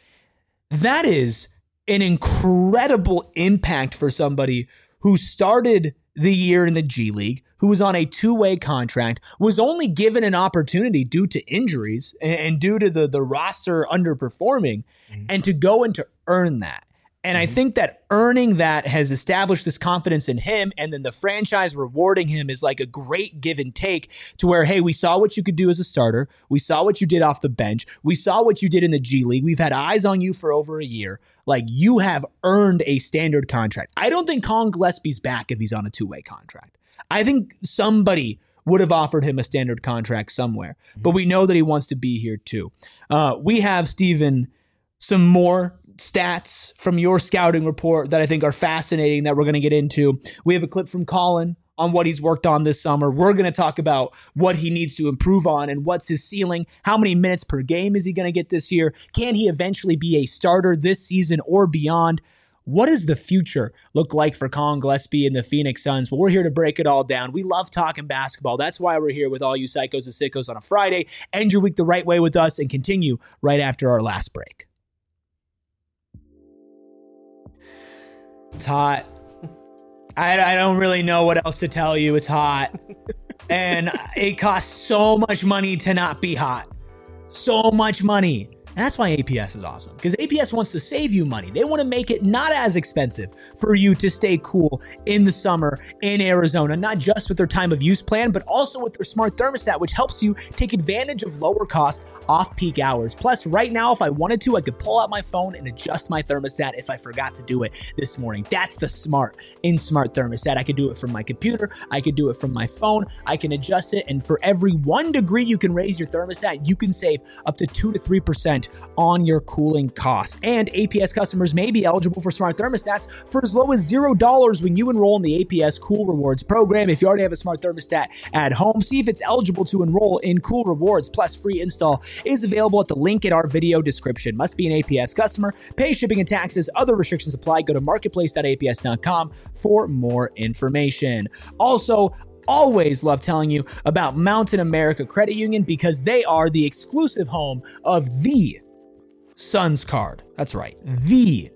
That is an incredible impact for somebody who started the year in the G League, who was on a 2-way contract, was only given an opportunity due to injuries and due to the roster underperforming, and to go and to earn that. And I think that earning that has established this confidence in him, and then the franchise rewarding him is like a great give and take to where, hey, we saw what you could do as a starter. We saw what you did off the bench. We saw what you did in the G League. We've had eyes on you for over a year. Like, you have earned a standard contract. I don't think Colin Gillespie's back if he's on a 2-way contract. I think somebody would have offered him a standard contract somewhere, but we know that he wants to be here too. We have, Steven, some more stats from your scouting report that I think are fascinating that we're going to get into. We have a clip from Colin on what he's worked on this summer. We're going to talk about what he needs to improve on and what's his ceiling. How many minutes per game is he going to get this year? Can he eventually be a starter this season or beyond? What does the future look like for Colin Gillespie and the Phoenix Suns? Well, we're here to break it all down. We love talking basketball. That's why we're here with all you psychos and sickos on a Friday. End your week the right way with us and continue right after our last break. It's hot. I don't really know what else to tell you. It's hot. And it costs so much money to not be hot. So much money. And that's why APS is awesome, because APS wants to save you money. They want to make it not as expensive for you to stay cool in the summer in Arizona, not just with their time of use plan, but also with their smart thermostat, which helps you take advantage of lower cost off-peak hours. Plus, right now, if I wanted to, I could pull out my phone and adjust my thermostat if I forgot to do it this morning. That's the smart thermostat. I could do it from my computer. I could do it from my phone. I can adjust it. And for every 1 degree you can raise your thermostat, you can save up to 2 to 3% on your cooling costs. And APS customers may be eligible for smart thermostats for as low as $0 when you enroll in the APS Cool Rewards program. If you already have a smart thermostat at home, see if it's eligible to enroll in Cool Rewards. Plus, free install is available at the link in our video description. Must be an APS customer. Pay shipping and taxes. Other restrictions apply. Go to marketplace.aps.com for more information. Also, always love telling you about Mountain America Credit Union, because they are the exclusive home of the Suns card. That's right, the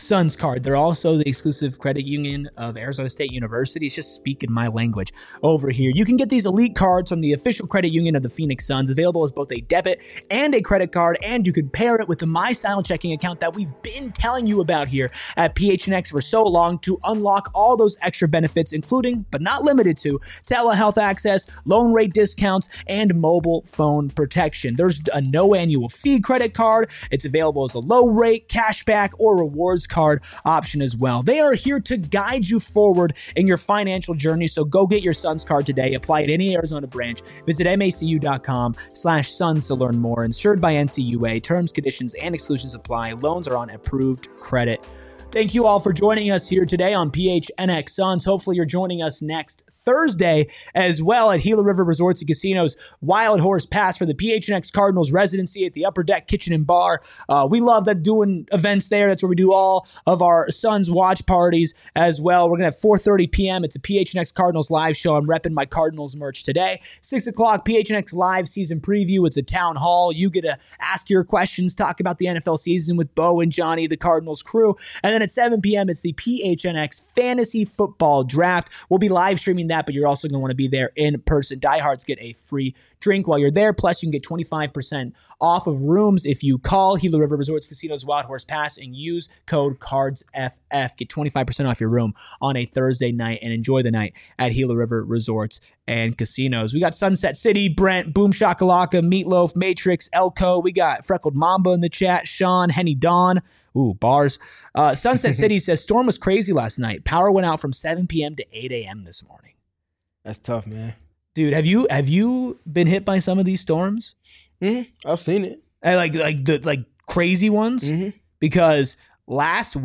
Suns Card. They're also the exclusive credit union of Arizona State University. It's just speaking my language over here. You can get these elite cards from the official credit union of the Phoenix Suns, available as both a debit and a credit card, and you can pair it with the MyStyle checking account that we've been telling you about here at PHNX for so long to unlock all those extra benefits, including, but not limited to, telehealth access, loan rate discounts, and mobile phone protection. There's a no annual fee credit card. It's available as a low rate, cashback, or rewards card option as well. They are here to guide you forward in your financial journey, so go get your Suns Card today. Apply at any Arizona branch. Visit macu.com/Suns to learn more. Insured by NCUA. Terms, conditions, and exclusions apply. Loans are on approved credit. Thank you all for joining us here today on PHNX Suns. Hopefully you're joining us next Thursday as well at Gila River Resorts and Casinos Wild Horse Pass for the PHNX Cardinals residency at the Upper Deck Kitchen and Bar. We love that doing events there. That's where we do all of our Suns watch parties as well. We're going to have 4:30 p.m. It's a PHNX Cardinals live show. I'm repping my Cardinals merch today. 6 o'clock, PHNX live season preview. It's a town hall. You get to ask your questions, talk about the NFL season with Bo and Johnny, the Cardinals crew. And then at 7 p.m., it's the PHNX Fantasy Football Draft. We'll be live streaming that, but you're also going to want to be there in person. Diehards get a free drink while you're there. Plus, you can get 25% off of rooms if you call Gila River Resorts Casinos Wild Horse Pass and use code CARDSFF. Get 25% off your room on a Thursday night and enjoy the night at Gila River Resorts and Casinos. We got Sunset City, Brent, Boom Shakalaka, Meatloaf, Matrix, Elko. We got Freckled Mamba in the chat, Sean, Henny Dawn. Ooh, bars. Sunset City says, storm was crazy last night. Power went out from 7 p.m. to 8 a.m. this morning. That's tough, man. Dude, have you been hit by some of these storms? Mm-hmm. I've seen it. Like crazy ones? Mm-hmm. Because last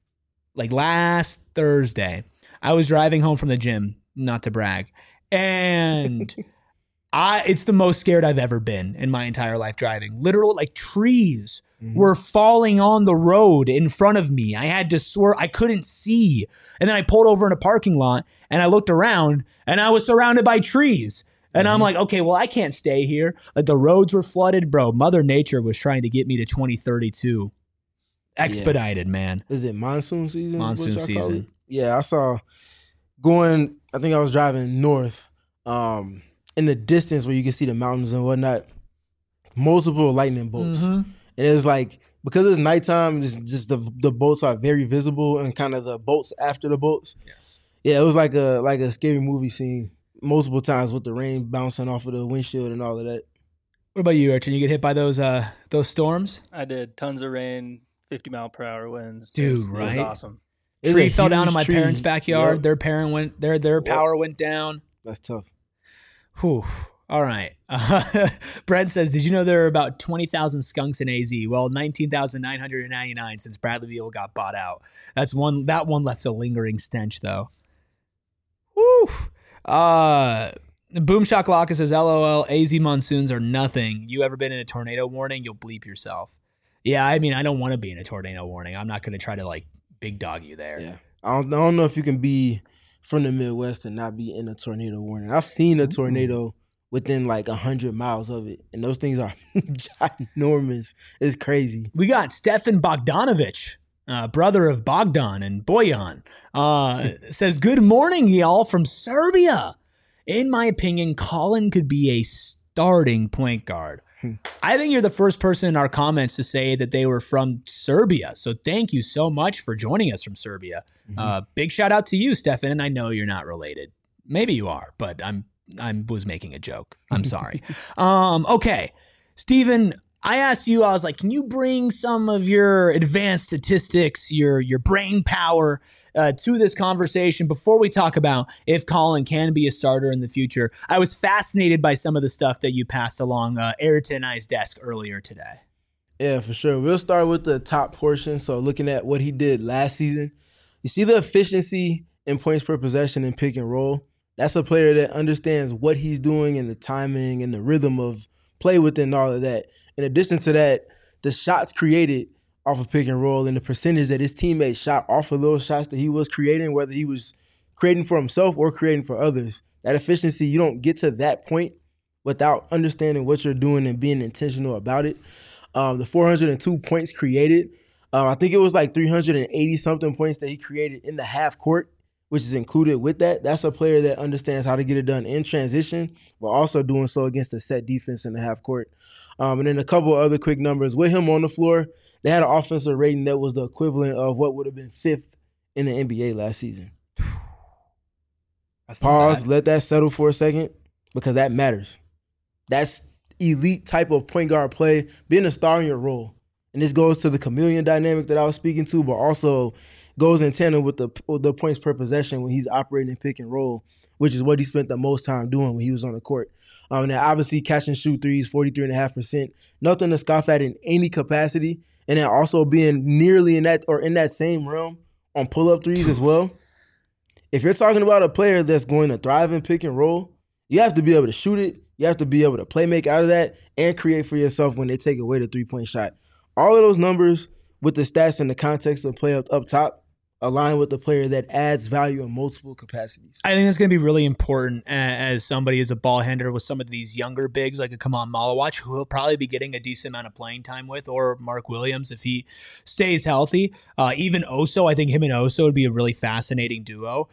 Thursday, I was driving home from the gym, not to brag, and it's the most scared I've ever been in my entire life driving. Literal, like trees were falling on the road in front of me. I had to swerve. I couldn't see. And then I pulled over in a parking lot and I looked around and I was surrounded by trees. And I'm like, okay, well, I can't stay here. Like the roads were flooded, bro. Mother Nature was trying to get me to 2032. Expedited, man. Is it monsoon season? Monsoon season. Yeah, I saw I think I was driving north in the distance where you can see the mountains and whatnot, multiple lightning bolts. And it's like, because it's nighttime, it's just the bolts are very visible and kind of the bolts after the bolts. Yeah, it was like a scary movie scene multiple times with the rain bouncing off of the windshield and all of that. What about you, Archie? You get hit by those storms? I did. Tons of rain, 50-mile-per-hour winds. Dude, It was awesome. Tree fell down in my parents' backyard. Yep. Their power went down. That's tough. Whew. All right. Brent says, did you know there are about 20,000 skunks in AZ? Well, 19,999 since Bradley Beal got bought out. That one left a lingering stench, though. Woo. Boom Shakalaka says, LOL, AZ monsoons are nothing. You ever been in a tornado warning? You'll bleep yourself. Yeah, I mean, I don't want to be in a tornado warning. I'm not going to try to, like, big dog you there. Yeah. I don't know if you can be from the Midwest and not be in a tornado warning. I've seen a tornado within like 100 miles of it, and those things are ginormous. It's crazy. We got Stefan Bogdanovich, brother of Bogdan and Bojan, says, good morning, y'all, from Serbia. In my opinion, Colin could be a starting point guard. I think you're the first person in our comments to say that they were from Serbia. So thank you so much for joining us from Serbia. Big shout out to you, Stefan. And I know you're not related. Maybe you are, but I was making a joke. I'm sorry. Okay. Steven, I asked you, I was like, can you bring some of your advanced statistics, your brain power to this conversation before we talk about if Colin can be a starter in the future? I was fascinated by some of the stuff that you passed along Ayrton and I's desk earlier today. Yeah, for sure. We'll start with the top portion. So looking at what he did last season, you see the efficiency in points per possession and pick and roll. That's a player that understands what he's doing and the timing and the rhythm of play within all of that. In addition to that, the shots created off of pick and roll and the percentage that his teammates shot off of those shots that he was creating, whether he was creating for himself or creating for others, that efficiency, you don't get to that point without understanding what you're doing and being intentional about it. The 402 points created, I think it was like 380 something points that he created in the half court, which is included with that. That's a player that understands how to get it done in transition, but also doing so against a set defense in the half court. And then a couple of other quick numbers. With him on the floor, they had an offensive rating that was the equivalent of what would have been 5th in the NBA last season. Pause, let that settle for a second, because that matters. That's elite type of point guard play, being a star in your role. And this goes to the chameleon dynamic that I was speaking to, but also goes in tandem with the points per possession when he's operating in pick and roll, which is what he spent the most time doing when he was on the court. And then obviously catch and shoot threes, 43.5%. Nothing to scoff at in any capacity. And then also being nearly in that same realm on pull-up threes as well. If you're talking about a player that's going to thrive in pick and roll, you have to be able to shoot it. You have to be able to play make out of that and create for yourself when they take away the three-point shot. All of those numbers with the stats in the context of play up top align with the player that adds value in multiple capacities. I think that's going to be really important as somebody as a ball handler with some of these younger bigs like a Kaman Malawach, who he'll probably be getting a decent amount of playing time with, or Mark Williams if he stays healthy. Even Oso, I think him and Oso would be a really fascinating duo.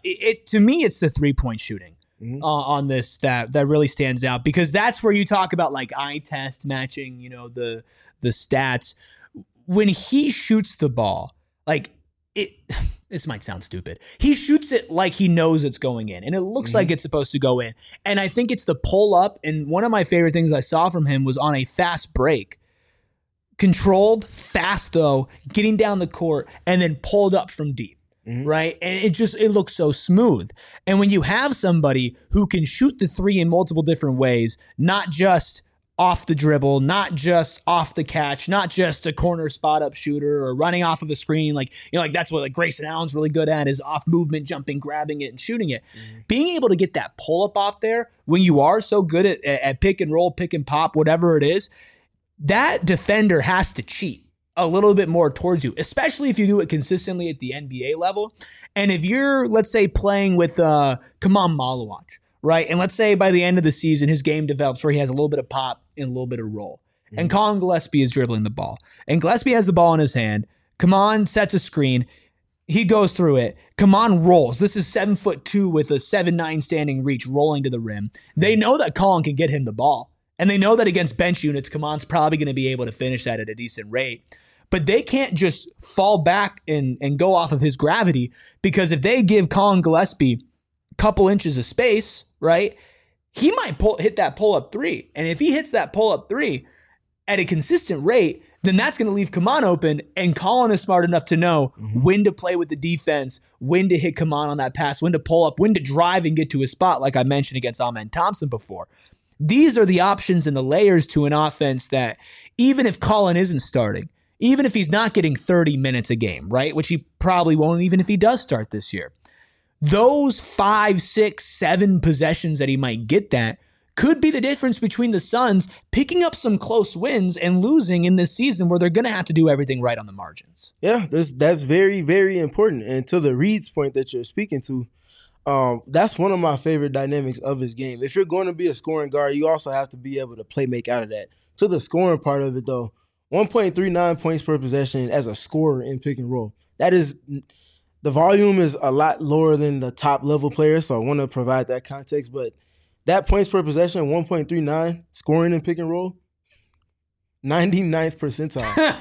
To me, it's the three-point shooting. On this that really stands out, because that's where you talk about like eye test matching, the stats. When he shoots the ball, like this might sound stupid. He shoots it like he knows it's going in, and it looks like it's supposed to go in. And I think it's the pull up. And one of my favorite things I saw from him was on a fast break. Controlled, fast though, getting down the court, and then pulled up from deep. Right? And it looks so smooth. And when you have somebody who can shoot the three in multiple different ways, not just off the dribble, not just off the catch, not just a corner spot up shooter or running off of a screen, like that's what like Grayson Allen's really good at, is off movement, jumping, grabbing it, and shooting it. Being able to get that pull up off there when you are so good at pick and roll, pick and pop, whatever it is, that defender has to cheat a little bit more towards you, especially if you do it consistently at the NBA level. And if you're, let's say, playing with Kaman Malawach, right? And let's say by the end of the season, his game develops where he has a little bit of pop and a little bit of roll. And Colin Gillespie is dribbling the ball. And Gillespie has the ball in his hand. Kaman sets a screen. He goes through it. Kaman rolls. This is 7'2" with a 7'9" standing reach rolling to the rim. They know that Colin can get him the ball. And they know that against bench units, Kaman's probably going to be able to finish that at a decent rate. But they can't just fall back and go off of his gravity, because if they give Colin Gillespie a couple inches of space, right, he might hit that pull-up three. And if he hits that pull-up three at a consistent rate, then that's going to leave Kaman open, and Colin is smart enough to know when to play with the defense, when to hit Kaman on that pass, when to pull up, when to drive and get to his spot, like I mentioned against Amen Thompson before. These are the options and the layers to an offense that even if Colin isn't starting, even if he's not getting 30 minutes a game, right, which he probably won't even if he does start this year, those 5, 6, 7 possessions that he might get that could be the difference between the Suns picking up some close wins and losing in this season where they're going to have to do everything right on the margins. Yeah, that's very, very important. And to the Reed's point that you're speaking to, that's one of my favorite dynamics of his game. If you're going to be a scoring guard, you also have to be able to play make out of that. To the scoring part of it, though, 1.39 points per possession as a scorer in pick and roll. That is, the volume is a lot lower than the top level players, so I want to provide that context. But that points per possession, 1.39, scoring in pick and roll, 99th percentile.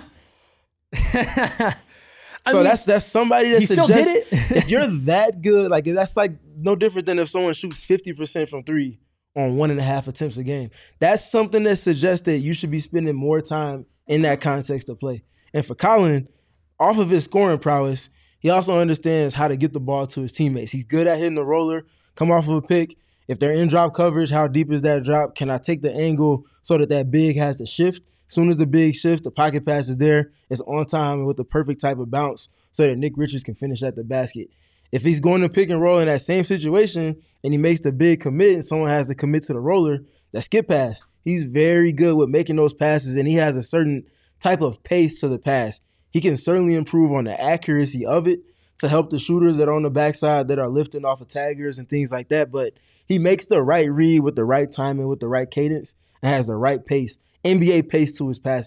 So that's somebody that still suggests did it? If you're that good, like that's like no different than if someone shoots 50% from three on 1.5 attempts a game. That's something that suggests that you should be spending more time in that context of play. And for Colin, off of his scoring prowess, he also understands how to get the ball to his teammates. He's good at hitting the roller, come off of a pick. If they're in drop coverage, how deep is that drop? Can I take the angle so that big has to shift? As soon as the big shifts, the pocket pass is there. It's on time with the perfect type of bounce so that Nick Richards can finish at the basket. If he's going to pick and roll in that same situation and he makes the big commit and someone has to commit to the roller, that skip pass, he's very good with making those passes, and he has a certain type of pace to the pass. He can certainly improve on the accuracy of it to help the shooters that are on the backside that are lifting off of taggers and things like that. But he makes the right read with the right timing, with the right cadence, and has the right pace, NBA pace to his passes.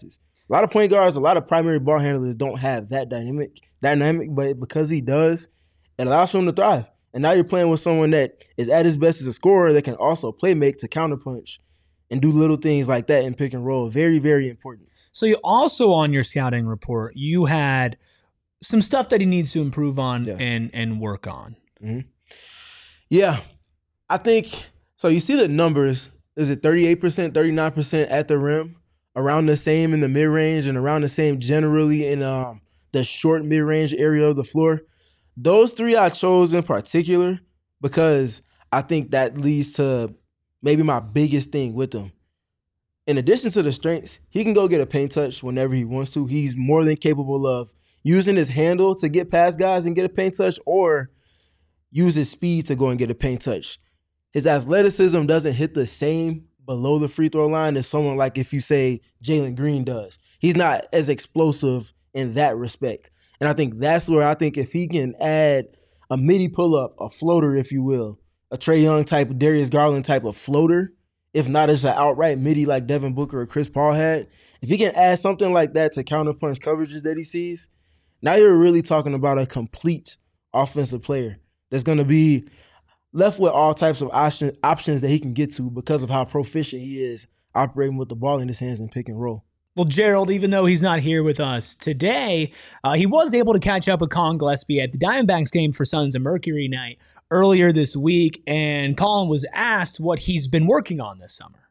A lot of point guards, a lot of primary ball handlers don't have that dynamic, but because he does, it allows for him to thrive. And now you're playing with someone that is at his best as a scorer that can also play make to counterpunch and do little things like that in pick and roll. Very, very important. So you also, on your scouting report, you had some stuff that he needs to improve on and work on. Mm-hmm. Yeah. I think, so you see the numbers. Is it 38%, 39% at the rim? Around the same in the mid-range and around the same generally in the short mid-range area of the floor. Those three I chose in particular because I think that leads to maybe my biggest thing with him. In addition to the strengths, he can go get a paint touch whenever he wants to. He's more than capable of using his handle to get past guys and get a paint touch, or use his speed to go and get a paint touch. His athleticism doesn't hit the same below the free throw line as someone like if you say Jalen Green does. He's not as explosive in that respect. And I think that's where I think if he can add a midi pull-up, a floater, if you will, a Trae Young type, Darius Garland type of floater, if not as an outright midi like Devin Booker or Chris Paul had, if he can add something like that to counterpunch coverages that he sees, now you're really talking about a complete offensive player that's going to be left with all types of options that he can get to because of how proficient he is operating with the ball in his hands and pick and roll. Well, Gerald, even though he's not here with us today, he was able to catch up with Colin Gillespie at the Diamondbacks game for Sons of Mercury night earlier this week, and Colin was asked what he's been working on this summer.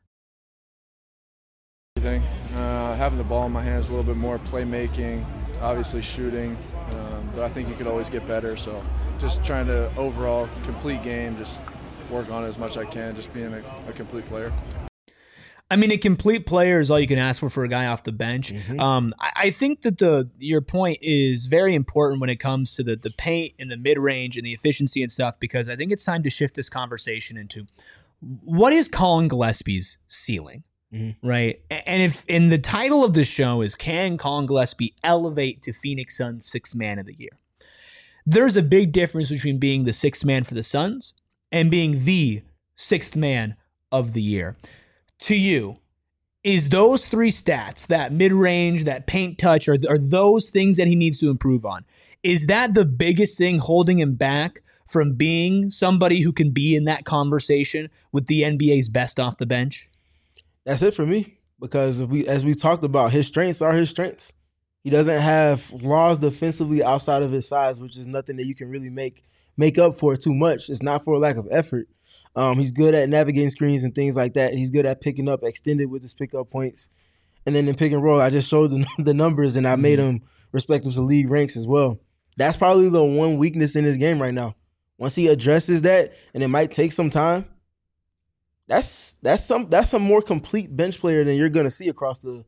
Having the ball in my hands a little bit more, playmaking, obviously shooting, but I think you could always get better, so just trying to overall complete game, just work on it as much as I can, just being a complete player. I mean, a complete player is all you can ask for a guy off the bench. Mm-hmm. I think that your point is very important when it comes to the paint and the mid-range and the efficiency and stuff, because I think it's time to shift this conversation into what is Colin Gillespie's ceiling, right? And if in the title of the show is, can Colin Gillespie elevate to Phoenix Suns Sixth Man of the Year? There's a big difference between being the sixth man for the Suns and being the sixth man of the year. To you, is those three stats, that mid-range, that paint touch, are those things that he needs to improve on? Is that the biggest thing holding him back from being somebody who can be in that conversation with the NBA's best off the bench? That's it for me, because as we talked about, his strengths are his strengths. He doesn't have flaws defensively outside of his size, which is nothing that you can really make up for too much. It's not for a lack of effort. He's good at navigating screens and things like that. He's good at picking up extended with his pickup points. And then in pick and roll, I just showed the numbers, and I made him respective to league ranks as well. That's probably the one weakness in his game right now. Once he addresses that, and it might take some time, that's some more complete bench player than you're going to see across the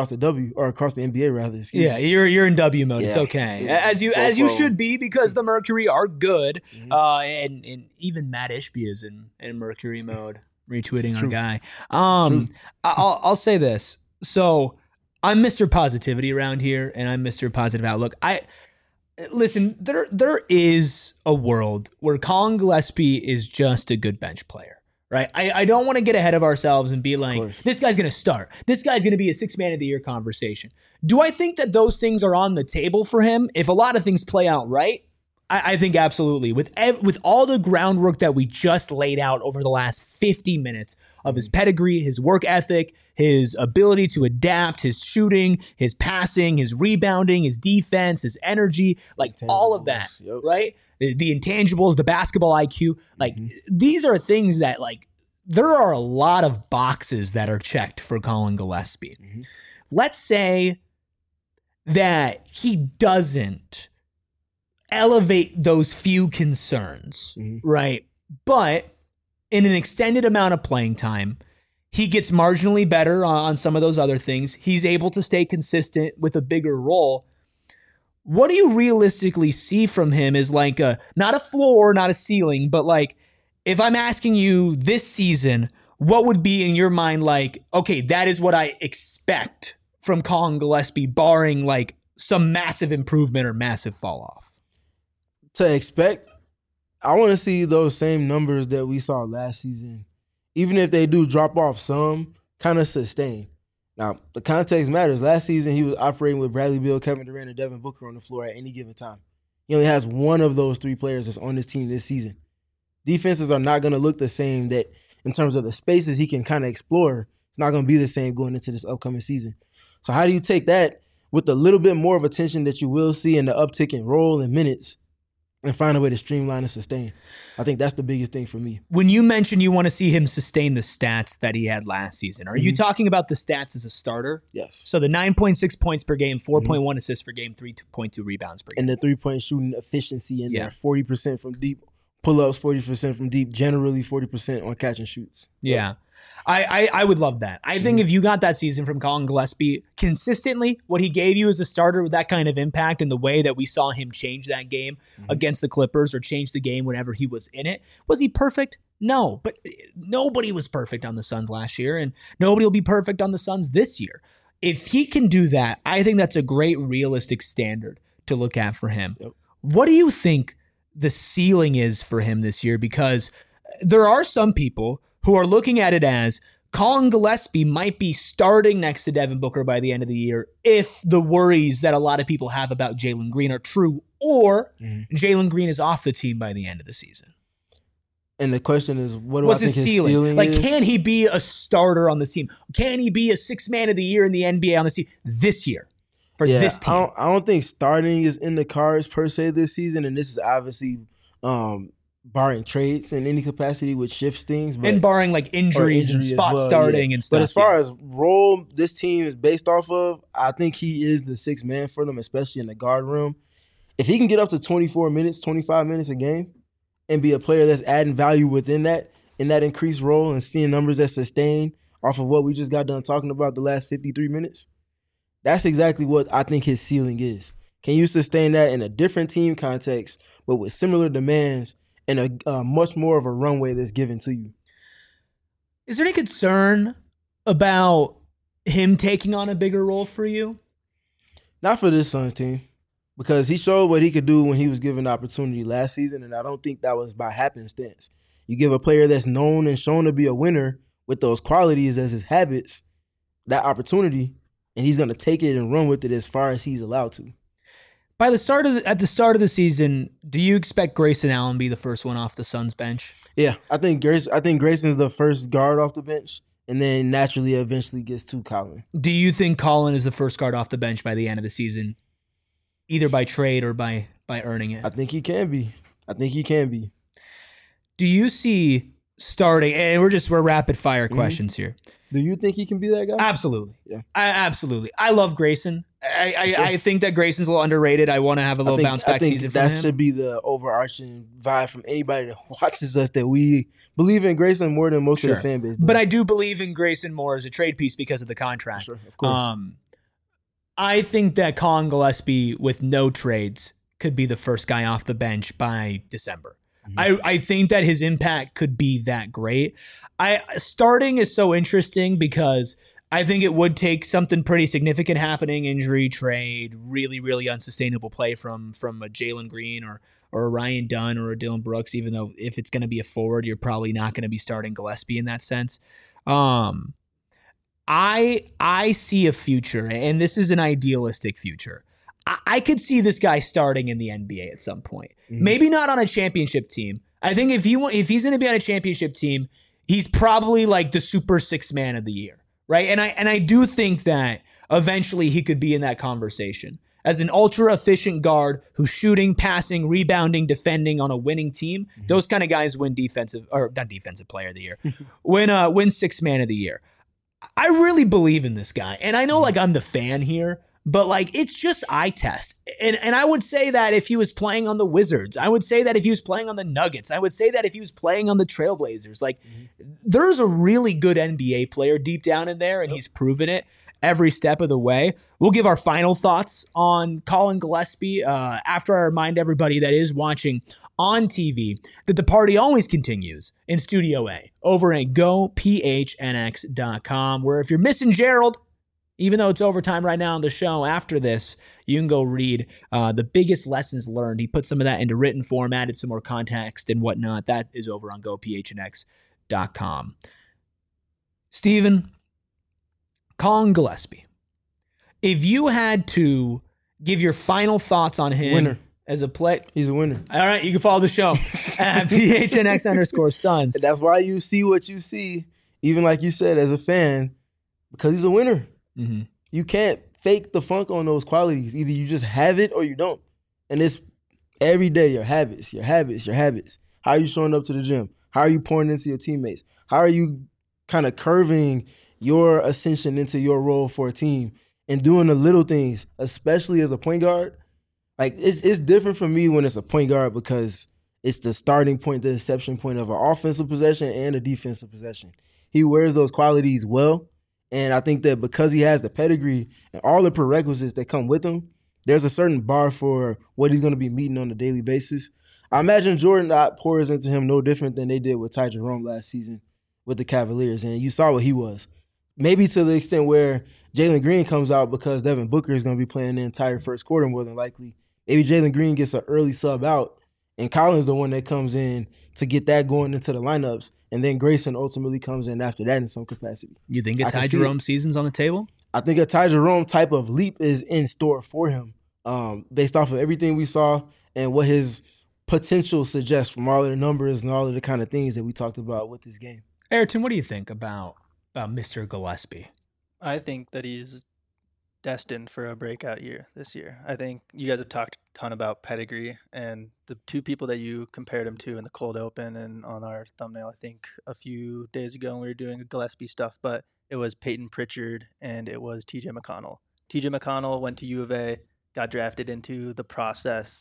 NBA rather. Yeah, you're in W mode. Yeah. It's okay, as you should be, because the Mercury are good, and even Matt Ishbia is in Mercury mode, retweeting our guy. I'll say this. So I'm Mr. Positivity around here, and I'm Mr. Positive Outlook. Listen, there is a world where Colin Gillespie is just a good bench player. Right, I don't want to get ahead of ourselves and be like, this guy's going to start. This guy's going to be a sixth man of the year conversation. Do I think that those things are on the table for him? If a lot of things play out right, I think absolutely. With all the groundwork that we just laid out over the last 50 minutes of his pedigree, his work ethic, his ability to adapt, his shooting, his passing, his rebounding, his defense, his energy, like all of that, right? The intangibles, the basketball IQ, these are things that, there are a lot of boxes that are checked for Colin Gillespie. Let's say that he doesn't elevate those few concerns, right? But in an extended amount of playing time, he gets marginally better on some of those other things. He's able to stay consistent with a bigger role. What do you realistically see from him as not a floor, not a ceiling, but if I'm asking you this season, what would be in your mind okay, that is what I expect from Colin Gillespie, barring some massive improvement or massive fall off? To expect, I want to see those same numbers that we saw last season. Even if they do drop off some, kind of sustain. Now, the context matters. Last season, he was operating with Bradley Beal, Kevin Durant, and Devin Booker on the floor at any given time. He only has one of those three players that's on his team this season. Defenses are not going to look the same that in terms of the spaces he can kind of explore. It's not going to be the same going into this upcoming season. So how do you take that with a little bit more of attention that you will see in the uptick in role and minutes and find a way to streamline and sustain? I think that's the biggest thing for me. When you mention you want to see him sustain the stats that he had last season, are you talking about the stats as a starter? Yes. So the 9.6 points per game, 4.1 assists per game, 3.2 rebounds per game. And the three-point shooting efficiency in there, 40% from deep, pull-ups 40% from deep, generally 40% on catch and shoots. Yeah. I would love that. I think if you got that season from Colin Gillespie consistently, what he gave you as a starter with that kind of impact and the way that we saw him change that game against the Clippers or change the game whenever he was in it, was he perfect? No, but nobody was perfect on the Suns last year, and nobody will be perfect on the Suns this year. If he can do that, I think that's a great realistic standard to look at for him. Yep. What do you think the ceiling is for him this year? Because there are some people who are looking at it as Colin Gillespie might be starting next to Devin Booker by the end of the year if the worries that a lot of people have about Jalen Green are true, or Jalen Green is off the team by the end of the season. And the question is, what's his ceiling? Like, is? Can he be a starter on the team? Can he be a sixth man of the year in the NBA on the team this year for this team? I don't think starting is in the cards per se this season, and this is obviously barring trades in any capacity, which shifts things. But, and barring like injuries and spot starting and stuff. But as far as role this team is based off of, I think he is the sixth man for them, especially in the guard room. If he can get up to 24 minutes, 25 minutes a game and be a player that's adding value within that, in that increased role and seeing numbers that sustain off of what we just got done talking about the last 53 minutes, that's exactly what I think his ceiling is. Can you sustain that in a different team context, but with similar demands and a much more of a runway that's given to you? Is there any concern about him taking on a bigger role for you? Not for this Suns team, because he showed what he could do when he was given the opportunity last season, and I don't think that was by happenstance. You give a player that's known and shown to be a winner with those qualities as his habits that opportunity, and he's going to take it and run with it as far as he's allowed to. At the start of the season, do you expect Grayson Allen be the first one off the Suns bench? Yeah, I think Grayson's the first guard off the bench, and then naturally eventually gets to Colin. Do you think Colin is the first guard off the bench by the end of the season, either by trade or by earning it? I think he can be. Do you see starting, and we're rapid fire questions here. Do you think he can be that guy? Absolutely. Yeah. Absolutely. I love Grayson. I think that Grayson's a little underrated. I want to have a little bounce back season for him. That should be the overarching vibe from anybody that watches us, that we believe in Grayson more than most of the fan base does. But I do believe in Grayson more as a trade piece because of the contract. Sure, of course. I think that Colin Gillespie with no trades could be the first guy off the bench by December. I think that his impact could be that great. Starting is so interesting because I think it would take something pretty significant happening, injury, trade, really, really unsustainable play from a Jalen Green or a Ryan Dunn or a Dylan Brooks, even though if it's going to be a forward, you're probably not going to be starting Gillespie in that sense. I see a future, and this is an idealistic future. I could see this guy starting in the NBA at some point. Maybe not on a championship team. I think if he's going to be on a championship team, he's probably like the super sixth man of the year, right? And I do think that eventually he could be in that conversation as an ultra efficient guard who's shooting, passing, rebounding, defending on a winning team. Those kind of guys win not defensive player of the year, win sixth man of the year. I really believe in this guy, and I know like I'm the fan here. But like it's just eye test. And I would say that if he was playing on the Wizards, I would say that if he was playing on the Nuggets, I would say that if he was playing on the Trailblazers, like there's a really good NBA player deep down in there, and he's proven it every step of the way. We'll give our final thoughts on Colin Gillespie after I remind everybody that is watching on TV that the party always continues in Studio A over at GoPHNX.com, where if you're missing Gerald, even though it's overtime right now on the show, after this, you can go read the biggest lessons learned. He put some of that into written form, added some more context and whatnot. That is over on GoPHNX.com. Steven, Colin Gillespie. If you had to give your final thoughts on him Winner. as a play. He's a winner. All right, you can follow the show at PHNX_Suns. And that's why you see what you see, even like you said, as a fan, because he's a winner. Mm-hmm. You can't fake the funk on those qualities. Either you just have it or you don't. And it's every day, your habits. How are you showing up to the gym? How are you pouring into your teammates? How are you kind of curving your ascension into your role for a team and doing the little things, especially as a point guard? Like, it's different for me when it's a point guard because it's the starting point, the inception point of an offensive possession and a defensive possession. He wears those qualities well, and I think that because he has the pedigree and all the prerequisites that come with him, there's a certain bar for what he's going to be meeting on a daily basis. I imagine Jordan pours into him no different than they did with Ty Jerome last season with the Cavaliers, and you saw what he was. Maybe to the extent where Jalen Green comes out because Devin Booker is going to be playing the entire first quarter more than likely. Maybe Jalen Green gets an early sub out, and Collins the one that comes in to get that going into the lineups, and then Grayson ultimately comes in after that in some capacity. You think a Ty Jerome season's on the table? I think a Ty Jerome type of leap is in store for him based off of everything we saw and what his potential suggests from all of the numbers and all of the kind of things that we talked about with this game. Ayrton, what do you think about Mr. Gillespie? I think that he's destined for a breakout year this year. I think you guys have talked a ton about pedigree, and the two people that you compared him to in the cold open and on our thumbnail, I think a few days ago when we were doing Gillespie stuff, but it was Peyton Pritchard and it was TJ McConnell. TJ McConnell went to U of A, got drafted into the process.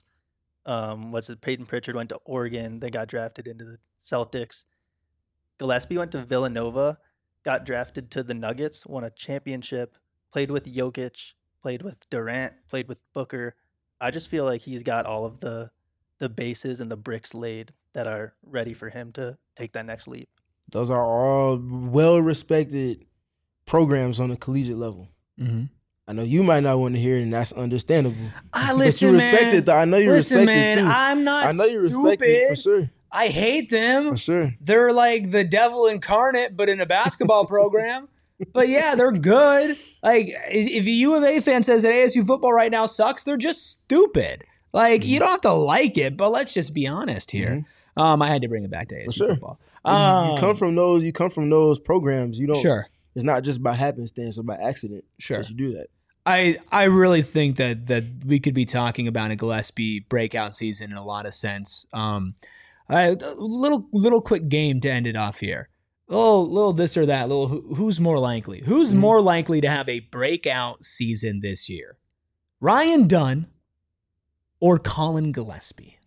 Peyton Pritchard went to Oregon, they got drafted into the Celtics. Gillespie went to Villanova, got drafted to the Nuggets, won a championship, played with Jokic, played with Durant, played with Booker. I just feel like he's got all of the bases and the bricks laid that are ready for him to take that next leap. Those are all well-respected programs on the collegiate level. Mm-hmm. I know you might not want to hear it, and that's understandable. Listen, but you respect it, though. I know you respect it, too. I'm not I know you respect stupid. it, for sure. I hate them. For sure. They're like the devil incarnate, but in a basketball program. But yeah, they're good. Like, if a U of A fan says that ASU football right now sucks, they're just stupid. Like, you don't have to like it, but let's just be honest here. Mm-hmm. I had to bring it back to ASU football. You come from those. You come from those programs. You don't. Sure. It's not just by happenstance or by accident. Sure. That you do that. I really think that we could be talking about a Gillespie breakout season in a lot of sense. A little quick game to end it off here. Little this or that. Who's more likely? Who's more likely to have a breakout season this year? Ryan Dunn or Colin Gillespie?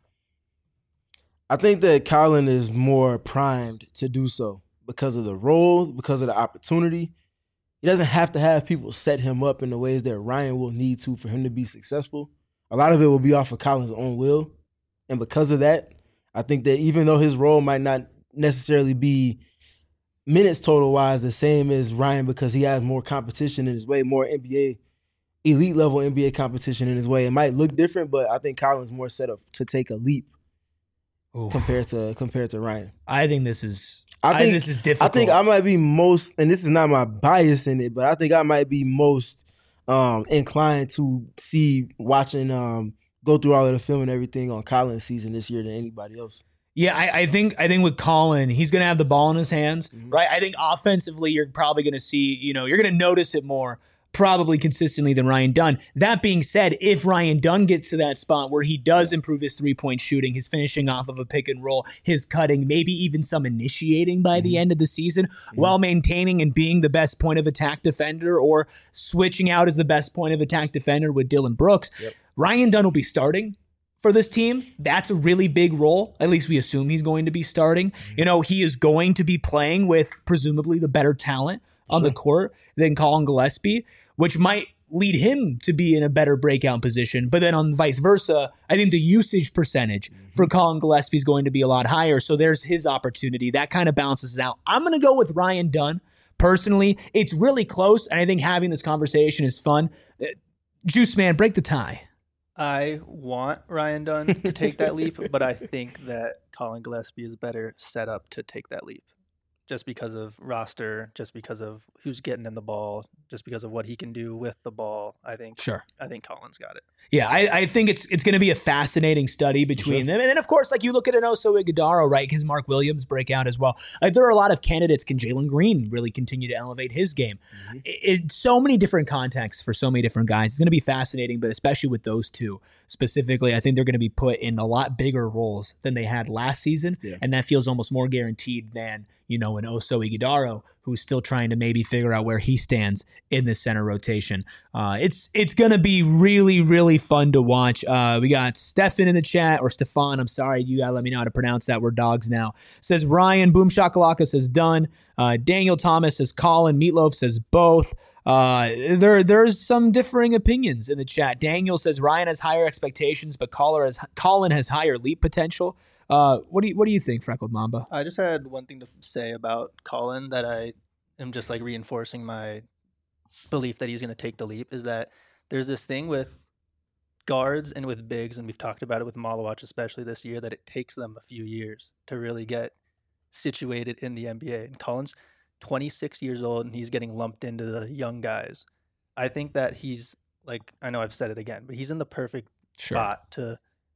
I think that Colin is more primed to do so because of the role, because of the opportunity. He doesn't have to have people set him up in the ways that Ryan will need to for him to be successful. A lot of it will be off of Colin's own will. And because of that, I think that even though his role might not necessarily be minutes total-wise the same as Ryan because he has more competition in his way, more NBA, elite-level NBA competition in his way, it might look different, but I think Colin's more set up to take a leap compared to Ryan. I think this is difficult. I think I might be most, and this is not my bias in it, but I think I might be most inclined to see watching go through all of the film and everything on Colin's season this year than anybody else. Yeah, I think with Colin, he's going to have the ball in his hands, right? I think offensively, you're probably going to see, you're going to notice it more probably consistently than Ryan Dunn. That being said, if Ryan Dunn gets to that spot where he does improve his three-point shooting, his finishing off of a pick and roll, his cutting, maybe even some initiating by the end of the season, while maintaining and being the best point of attack defender or switching out as the best point of attack defender with Dylan Brooks, Ryan Dunn will be starting for this team. That's a really big role. At least we assume he's going to be starting. He is going to be playing with presumably the better talent on the court than Colin Gillespie, which might lead him to be in a better breakout position. But then on vice versa, I think the usage percentage for Colin Gillespie is going to be a lot higher. So there's his opportunity. That kind of balances out. I'm going to go with Ryan Dunn. Personally, it's really close, and I think having this conversation is fun. Juice Man, break the tie. I want Ryan Dunn to take that leap, but I think that Colin Gillespie is better set up to take that leap. Just because of roster, just because of who's getting him the ball, just because of what he can do with the ball. I think Colin's got it. Yeah, I think it's going to be a fascinating study between them. And then, of course, like you look at an Oso Ighodaro, right? Because Mark Williams break out as well. Like there are a lot of candidates. Can Jalen Green really continue to elevate his game? It's so many different contexts for so many different guys. It's going to be fascinating, but especially with those two specifically, I think they're going to be put in a lot bigger roles than they had last season. Yeah. And that feels almost more guaranteed than, an Oso Ighodaro who's still trying to maybe figure out where he stands in the center rotation. It's going to be really, really fun to watch. We got Stefan in the chat, or Stefan, I'm sorry, you got to let me know how to pronounce that. We're dogs now. Says Ryan, Boom Shakalaka says done. Daniel Thomas says Colin. Meatloaf says both. There's some differing opinions in the chat. Daniel says Ryan has higher expectations, but Colin has higher leap potential. What do you think, Freckled Mamba? I just had one thing to say about Colin that I am just like reinforcing my belief that he's going to take the leap, is that there's this thing with guards and with bigs, and we've talked about it with Malawach especially this year, that it takes them a few years to really get situated in the NBA. And Colin's 26 years old and he's getting lumped into the young guys. I think that he's like, I know I've said it again, but he's in the perfect spot to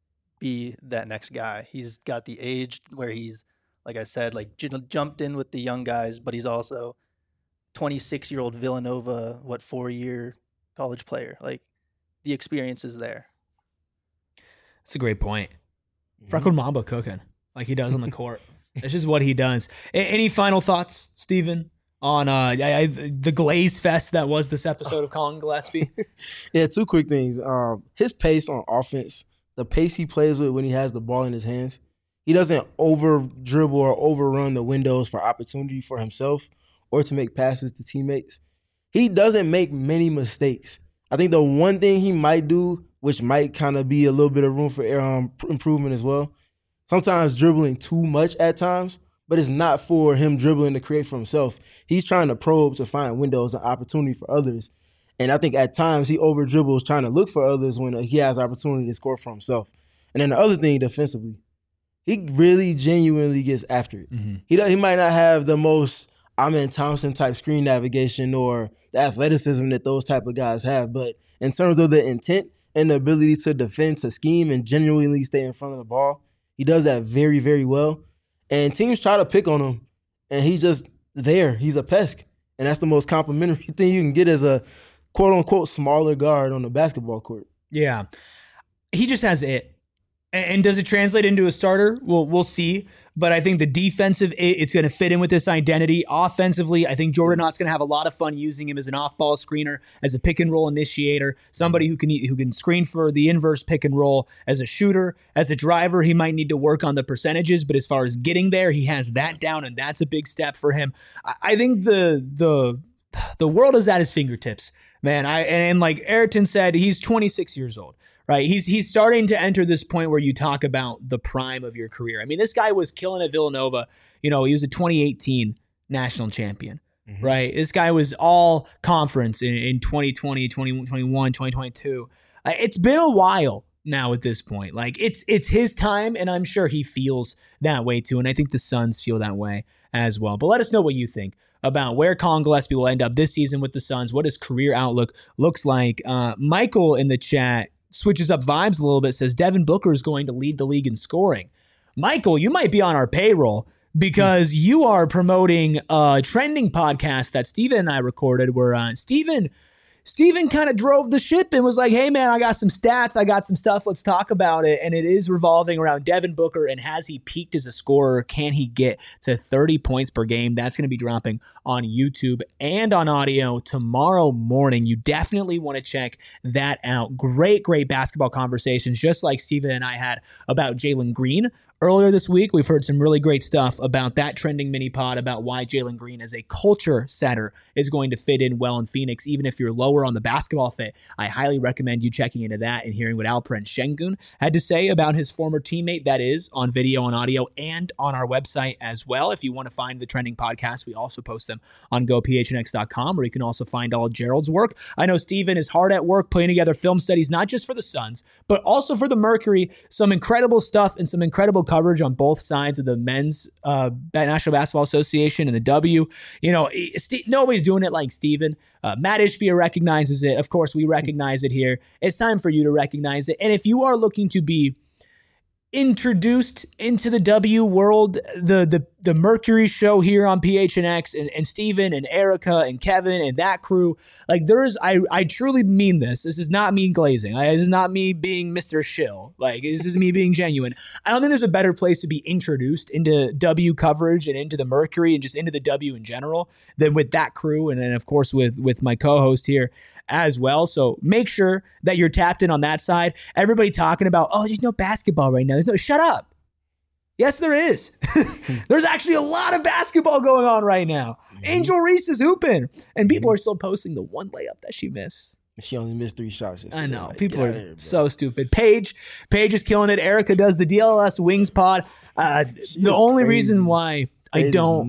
be that next guy. He's got the age where he's, like I said, like jumped in with the young guys, but he's also 26-year-old Villanova, 4-year college player. Like the experience is there. That's a great point. Freckled Mamba cooking like he does on the court. That's just what he does. Any final thoughts, Steven, on the glaze fest that was this episode of Colin Gillespie? Yeah, two quick things. His pace on offense, the pace he plays with when he has the ball in his hands, he doesn't over dribble or overrun the windows for opportunity for himself or to make passes to teammates. He doesn't make many mistakes. I think the one thing he might do, which might kind of be a little bit of room for improvement as well, sometimes dribbling too much at times, but it's not for him dribbling to create for himself. He's trying to probe to find windows and opportunity for others. And I think at times he over dribbles trying to look for others when he has opportunity to score for himself. And then the other thing defensively, he really genuinely gets after it. Mm-hmm. He might not have the most Amen Thompson type screen navigation or the athleticism that those type of guys have, but in terms of the intent and the ability to defend, to scheme, and genuinely stay in front of the ball, he does that very, very well. And teams try to pick on him, and he's just there. He's a pest. And that's the most complimentary thing you can get as a quote-unquote smaller guard on the basketball court. Yeah. He just has it. And does it translate into a starter? We'll see. But I think the defensive, it's going to fit in with this identity. Offensively, I think Jordan Knott's going to have a lot of fun using him as an off-ball screener, as a pick-and-roll initiator, somebody who can screen for the inverse pick-and-roll. As a shooter, as a driver, he might need to work on the percentages, but as far as getting there, he has that down, and that's a big step for him. I think the world is at his fingertips, man. And like Ayrton said, he's 26 years old. Right, he's starting to enter this point where you talk about the prime of your career. I mean, this guy was killing at Villanova. He was a 2018 national champion, right? This guy was all conference in 2020, 2021, 2022. It's been a while now at this point. Like, it's his time, and I'm sure he feels that way too, and I think the Suns feel that way as well. But let us know what you think about where Colin Gillespie will end up this season with the Suns, what his career outlook looks like. Michael in the chat switches up vibes a little bit, says Devin Booker is going to lead the league in scoring. Michael, you might be on our payroll because you are promoting a trending podcast that Steven and I recorded where Steven kind of drove the ship and was like, hey, man, I got some stats. I got some stuff. Let's talk about it. And it is revolving around Devin Booker. And has he peaked as a scorer? Can he get to 30 points per game? That's going to be dropping on YouTube and on audio tomorrow morning. You definitely want to check that out. Great, great basketball conversations, just like Steven and I had about Jalen Green. Earlier this week, we've heard some really great stuff about that trending mini pod about why Jalen Green as a culture setter is going to fit in well in Phoenix. Even if you're lower on the basketball fit, I highly recommend you checking into that and hearing what Alperen Şengün had to say about his former teammate. That is on video and audio and on our website as well. If you want to find the trending podcasts, we also post them on gophnx.com, where you can also find all Gerald's work. I know Steven is hard at work putting together film studies, not just for the Suns, but also for the Mercury. Some incredible stuff and some incredible coverage on both sides of the men's National Basketball Association and the W. Nobody's doing it like Steven. Matt Ishbia recognizes it. Of course, we recognize it here. It's time for you to recognize it. And if you are looking to be introduced into the W world, the Mercury show here on PHNX, and Steven and Erica and Kevin and that crew, like I truly mean this. This is not me glazing. This is not me being Mr. Shill. Like, this is me being genuine. I don't think there's a better place to be introduced into W coverage and into the Mercury and just into the W in general than with that crew, and then of course with my co-host here as well. So make sure that you're tapped in on that side. Everybody talking about, oh, there's no basketball right now. No, shut up. Yes, there is. There's actually a lot of basketball going on right now. Angel Reese is hooping, and people are still posting the one layup that she missed. She only missed 3 shots yesterday. I know. People are so stupid. Paige is killing it. Erica does the DLS Wings pod. The only reason why I don't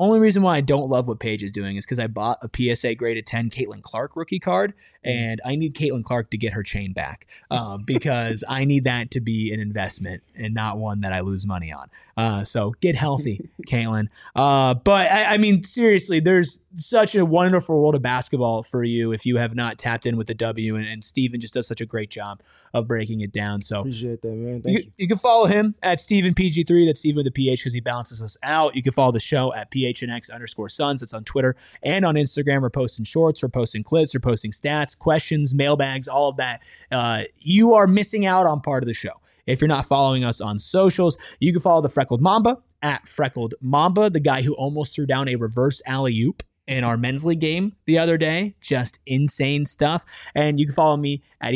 love what Paige is doing is because I bought a PSA graded 10 Caitlin Clark rookie card, and I need Caitlin Clark to get her chain back because I need that to be an investment and not one that I lose money on. So get healthy, Caitlin. But I mean, seriously, there's such a wonderful world of basketball for you if you have not tapped in with the W, and Steven just does such a great job of breaking it down. So appreciate that, man. Thank you. You can follow him at StevenPG3. That's Steven with a PH because he balances us out. You can follow the show at PHNX_Suns. That's on Twitter and on Instagram. We're posting shorts, we're posting clips, we're posting stats, questions, mailbags, all of that. You are missing out on part of the show if you're not following us on socials. You can follow the Freckled Mamba at Freckled Mamba, the guy who almost threw down a reverse alley-oop in our men's league game the other day. Just insane stuff. And you can follow me at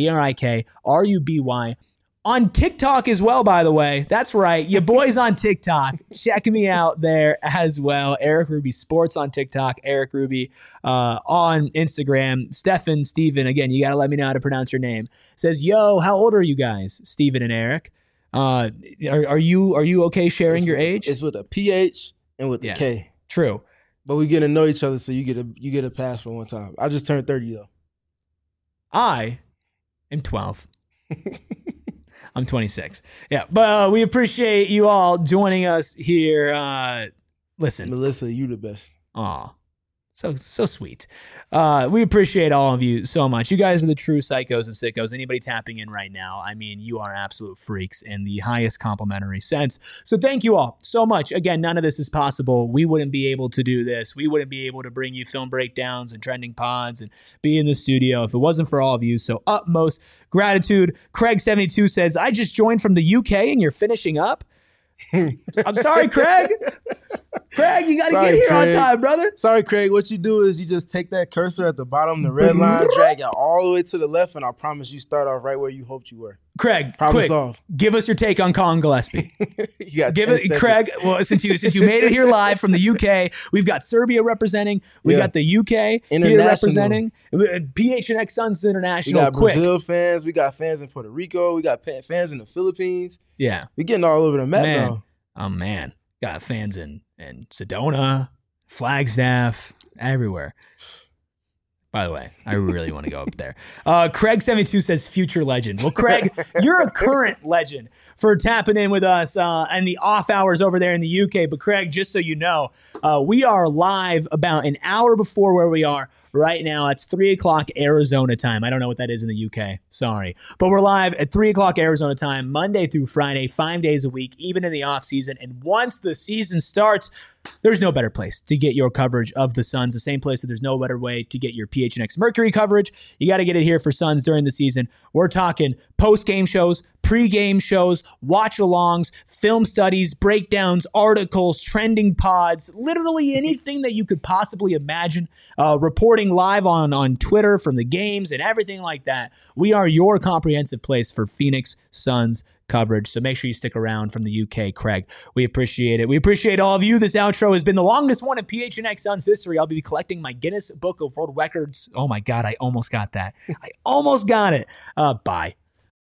ERIKRUBY on TikTok as well, by the way. That's right. Your boy's on TikTok. Check me out there as well. Eric Ruby Sports on TikTok. Eric Ruby on Instagram. Steven, again, you got to let me know how to pronounce your name. Says, yo, how old are you guys? Steven and Eric. Are you okay sharing your age? It's with a PH and with a K. True. But we get to know each other, so you get a pass for one time. I just turned 30 though. I am 12. I'm 26. Yeah, but we appreciate you all joining us here. Listen, Melissa, you the best. Aw, so sweet. We appreciate all of you so much. You guys are the true psychos and sickos. Anybody tapping in right now, I mean, you are absolute freaks in the highest complimentary sense. So thank you all so much. Again, none of this is possible. We wouldn't be able to do this. We wouldn't be able to bring you film breakdowns and trending pods and be in the studio if it wasn't for all of you. So utmost gratitude. Craig72 says, I just joined from the UK and you're finishing up. I'm sorry, Craig. Craig, you got to get here on time, brother. Sorry, Craig. What you do is you just take that cursor at the bottom, the red line, drag it all the way to the left, and I promise you start off right where you hoped you were. Craig, quick, give us your take on Colin Gillespie. Craig. Well, since you made it here live from the UK, we've got Serbia representing. We got the UK here representing. PHNX Suns International. We got Brazil fans. We got fans in Puerto Rico. We got fans in the Philippines. Yeah, we're getting all over the map now. Oh man, got fans in Sedona, Flagstaff, everywhere. By the way, I really want to go up there. Craig72 says future legend. Well, Craig, you're a current legend for tapping in with us and the off hours over there in the UK. But Craig, just so you know, we are live about an hour before where we are right now. It's 3 o'clock Arizona time. I don't know what that is in the UK. Sorry. But we're live at 3 o'clock Arizona time, Monday through Friday, 5 days a week, even in the off season. And once the season starts, there's no better place to get your coverage of the Suns. The same place that there's no better way to get your PHNX Mercury coverage. You got to get it here for Suns during the season. We're talking post-game shows, pre-game shows, watch-alongs, film studies, breakdowns, articles, trending pods, literally anything that you could possibly imagine, reporting live on Twitter from the games and everything like that. We are your comprehensive place for Phoenix Suns coverage. So make sure you stick around from the UK, Craig. We appreciate it. We appreciate all of you. This outro has been the longest one in PHNX Suns history. I'll be collecting my Guinness Book of World Records. Oh my God, I almost got that. I almost got it. Bye.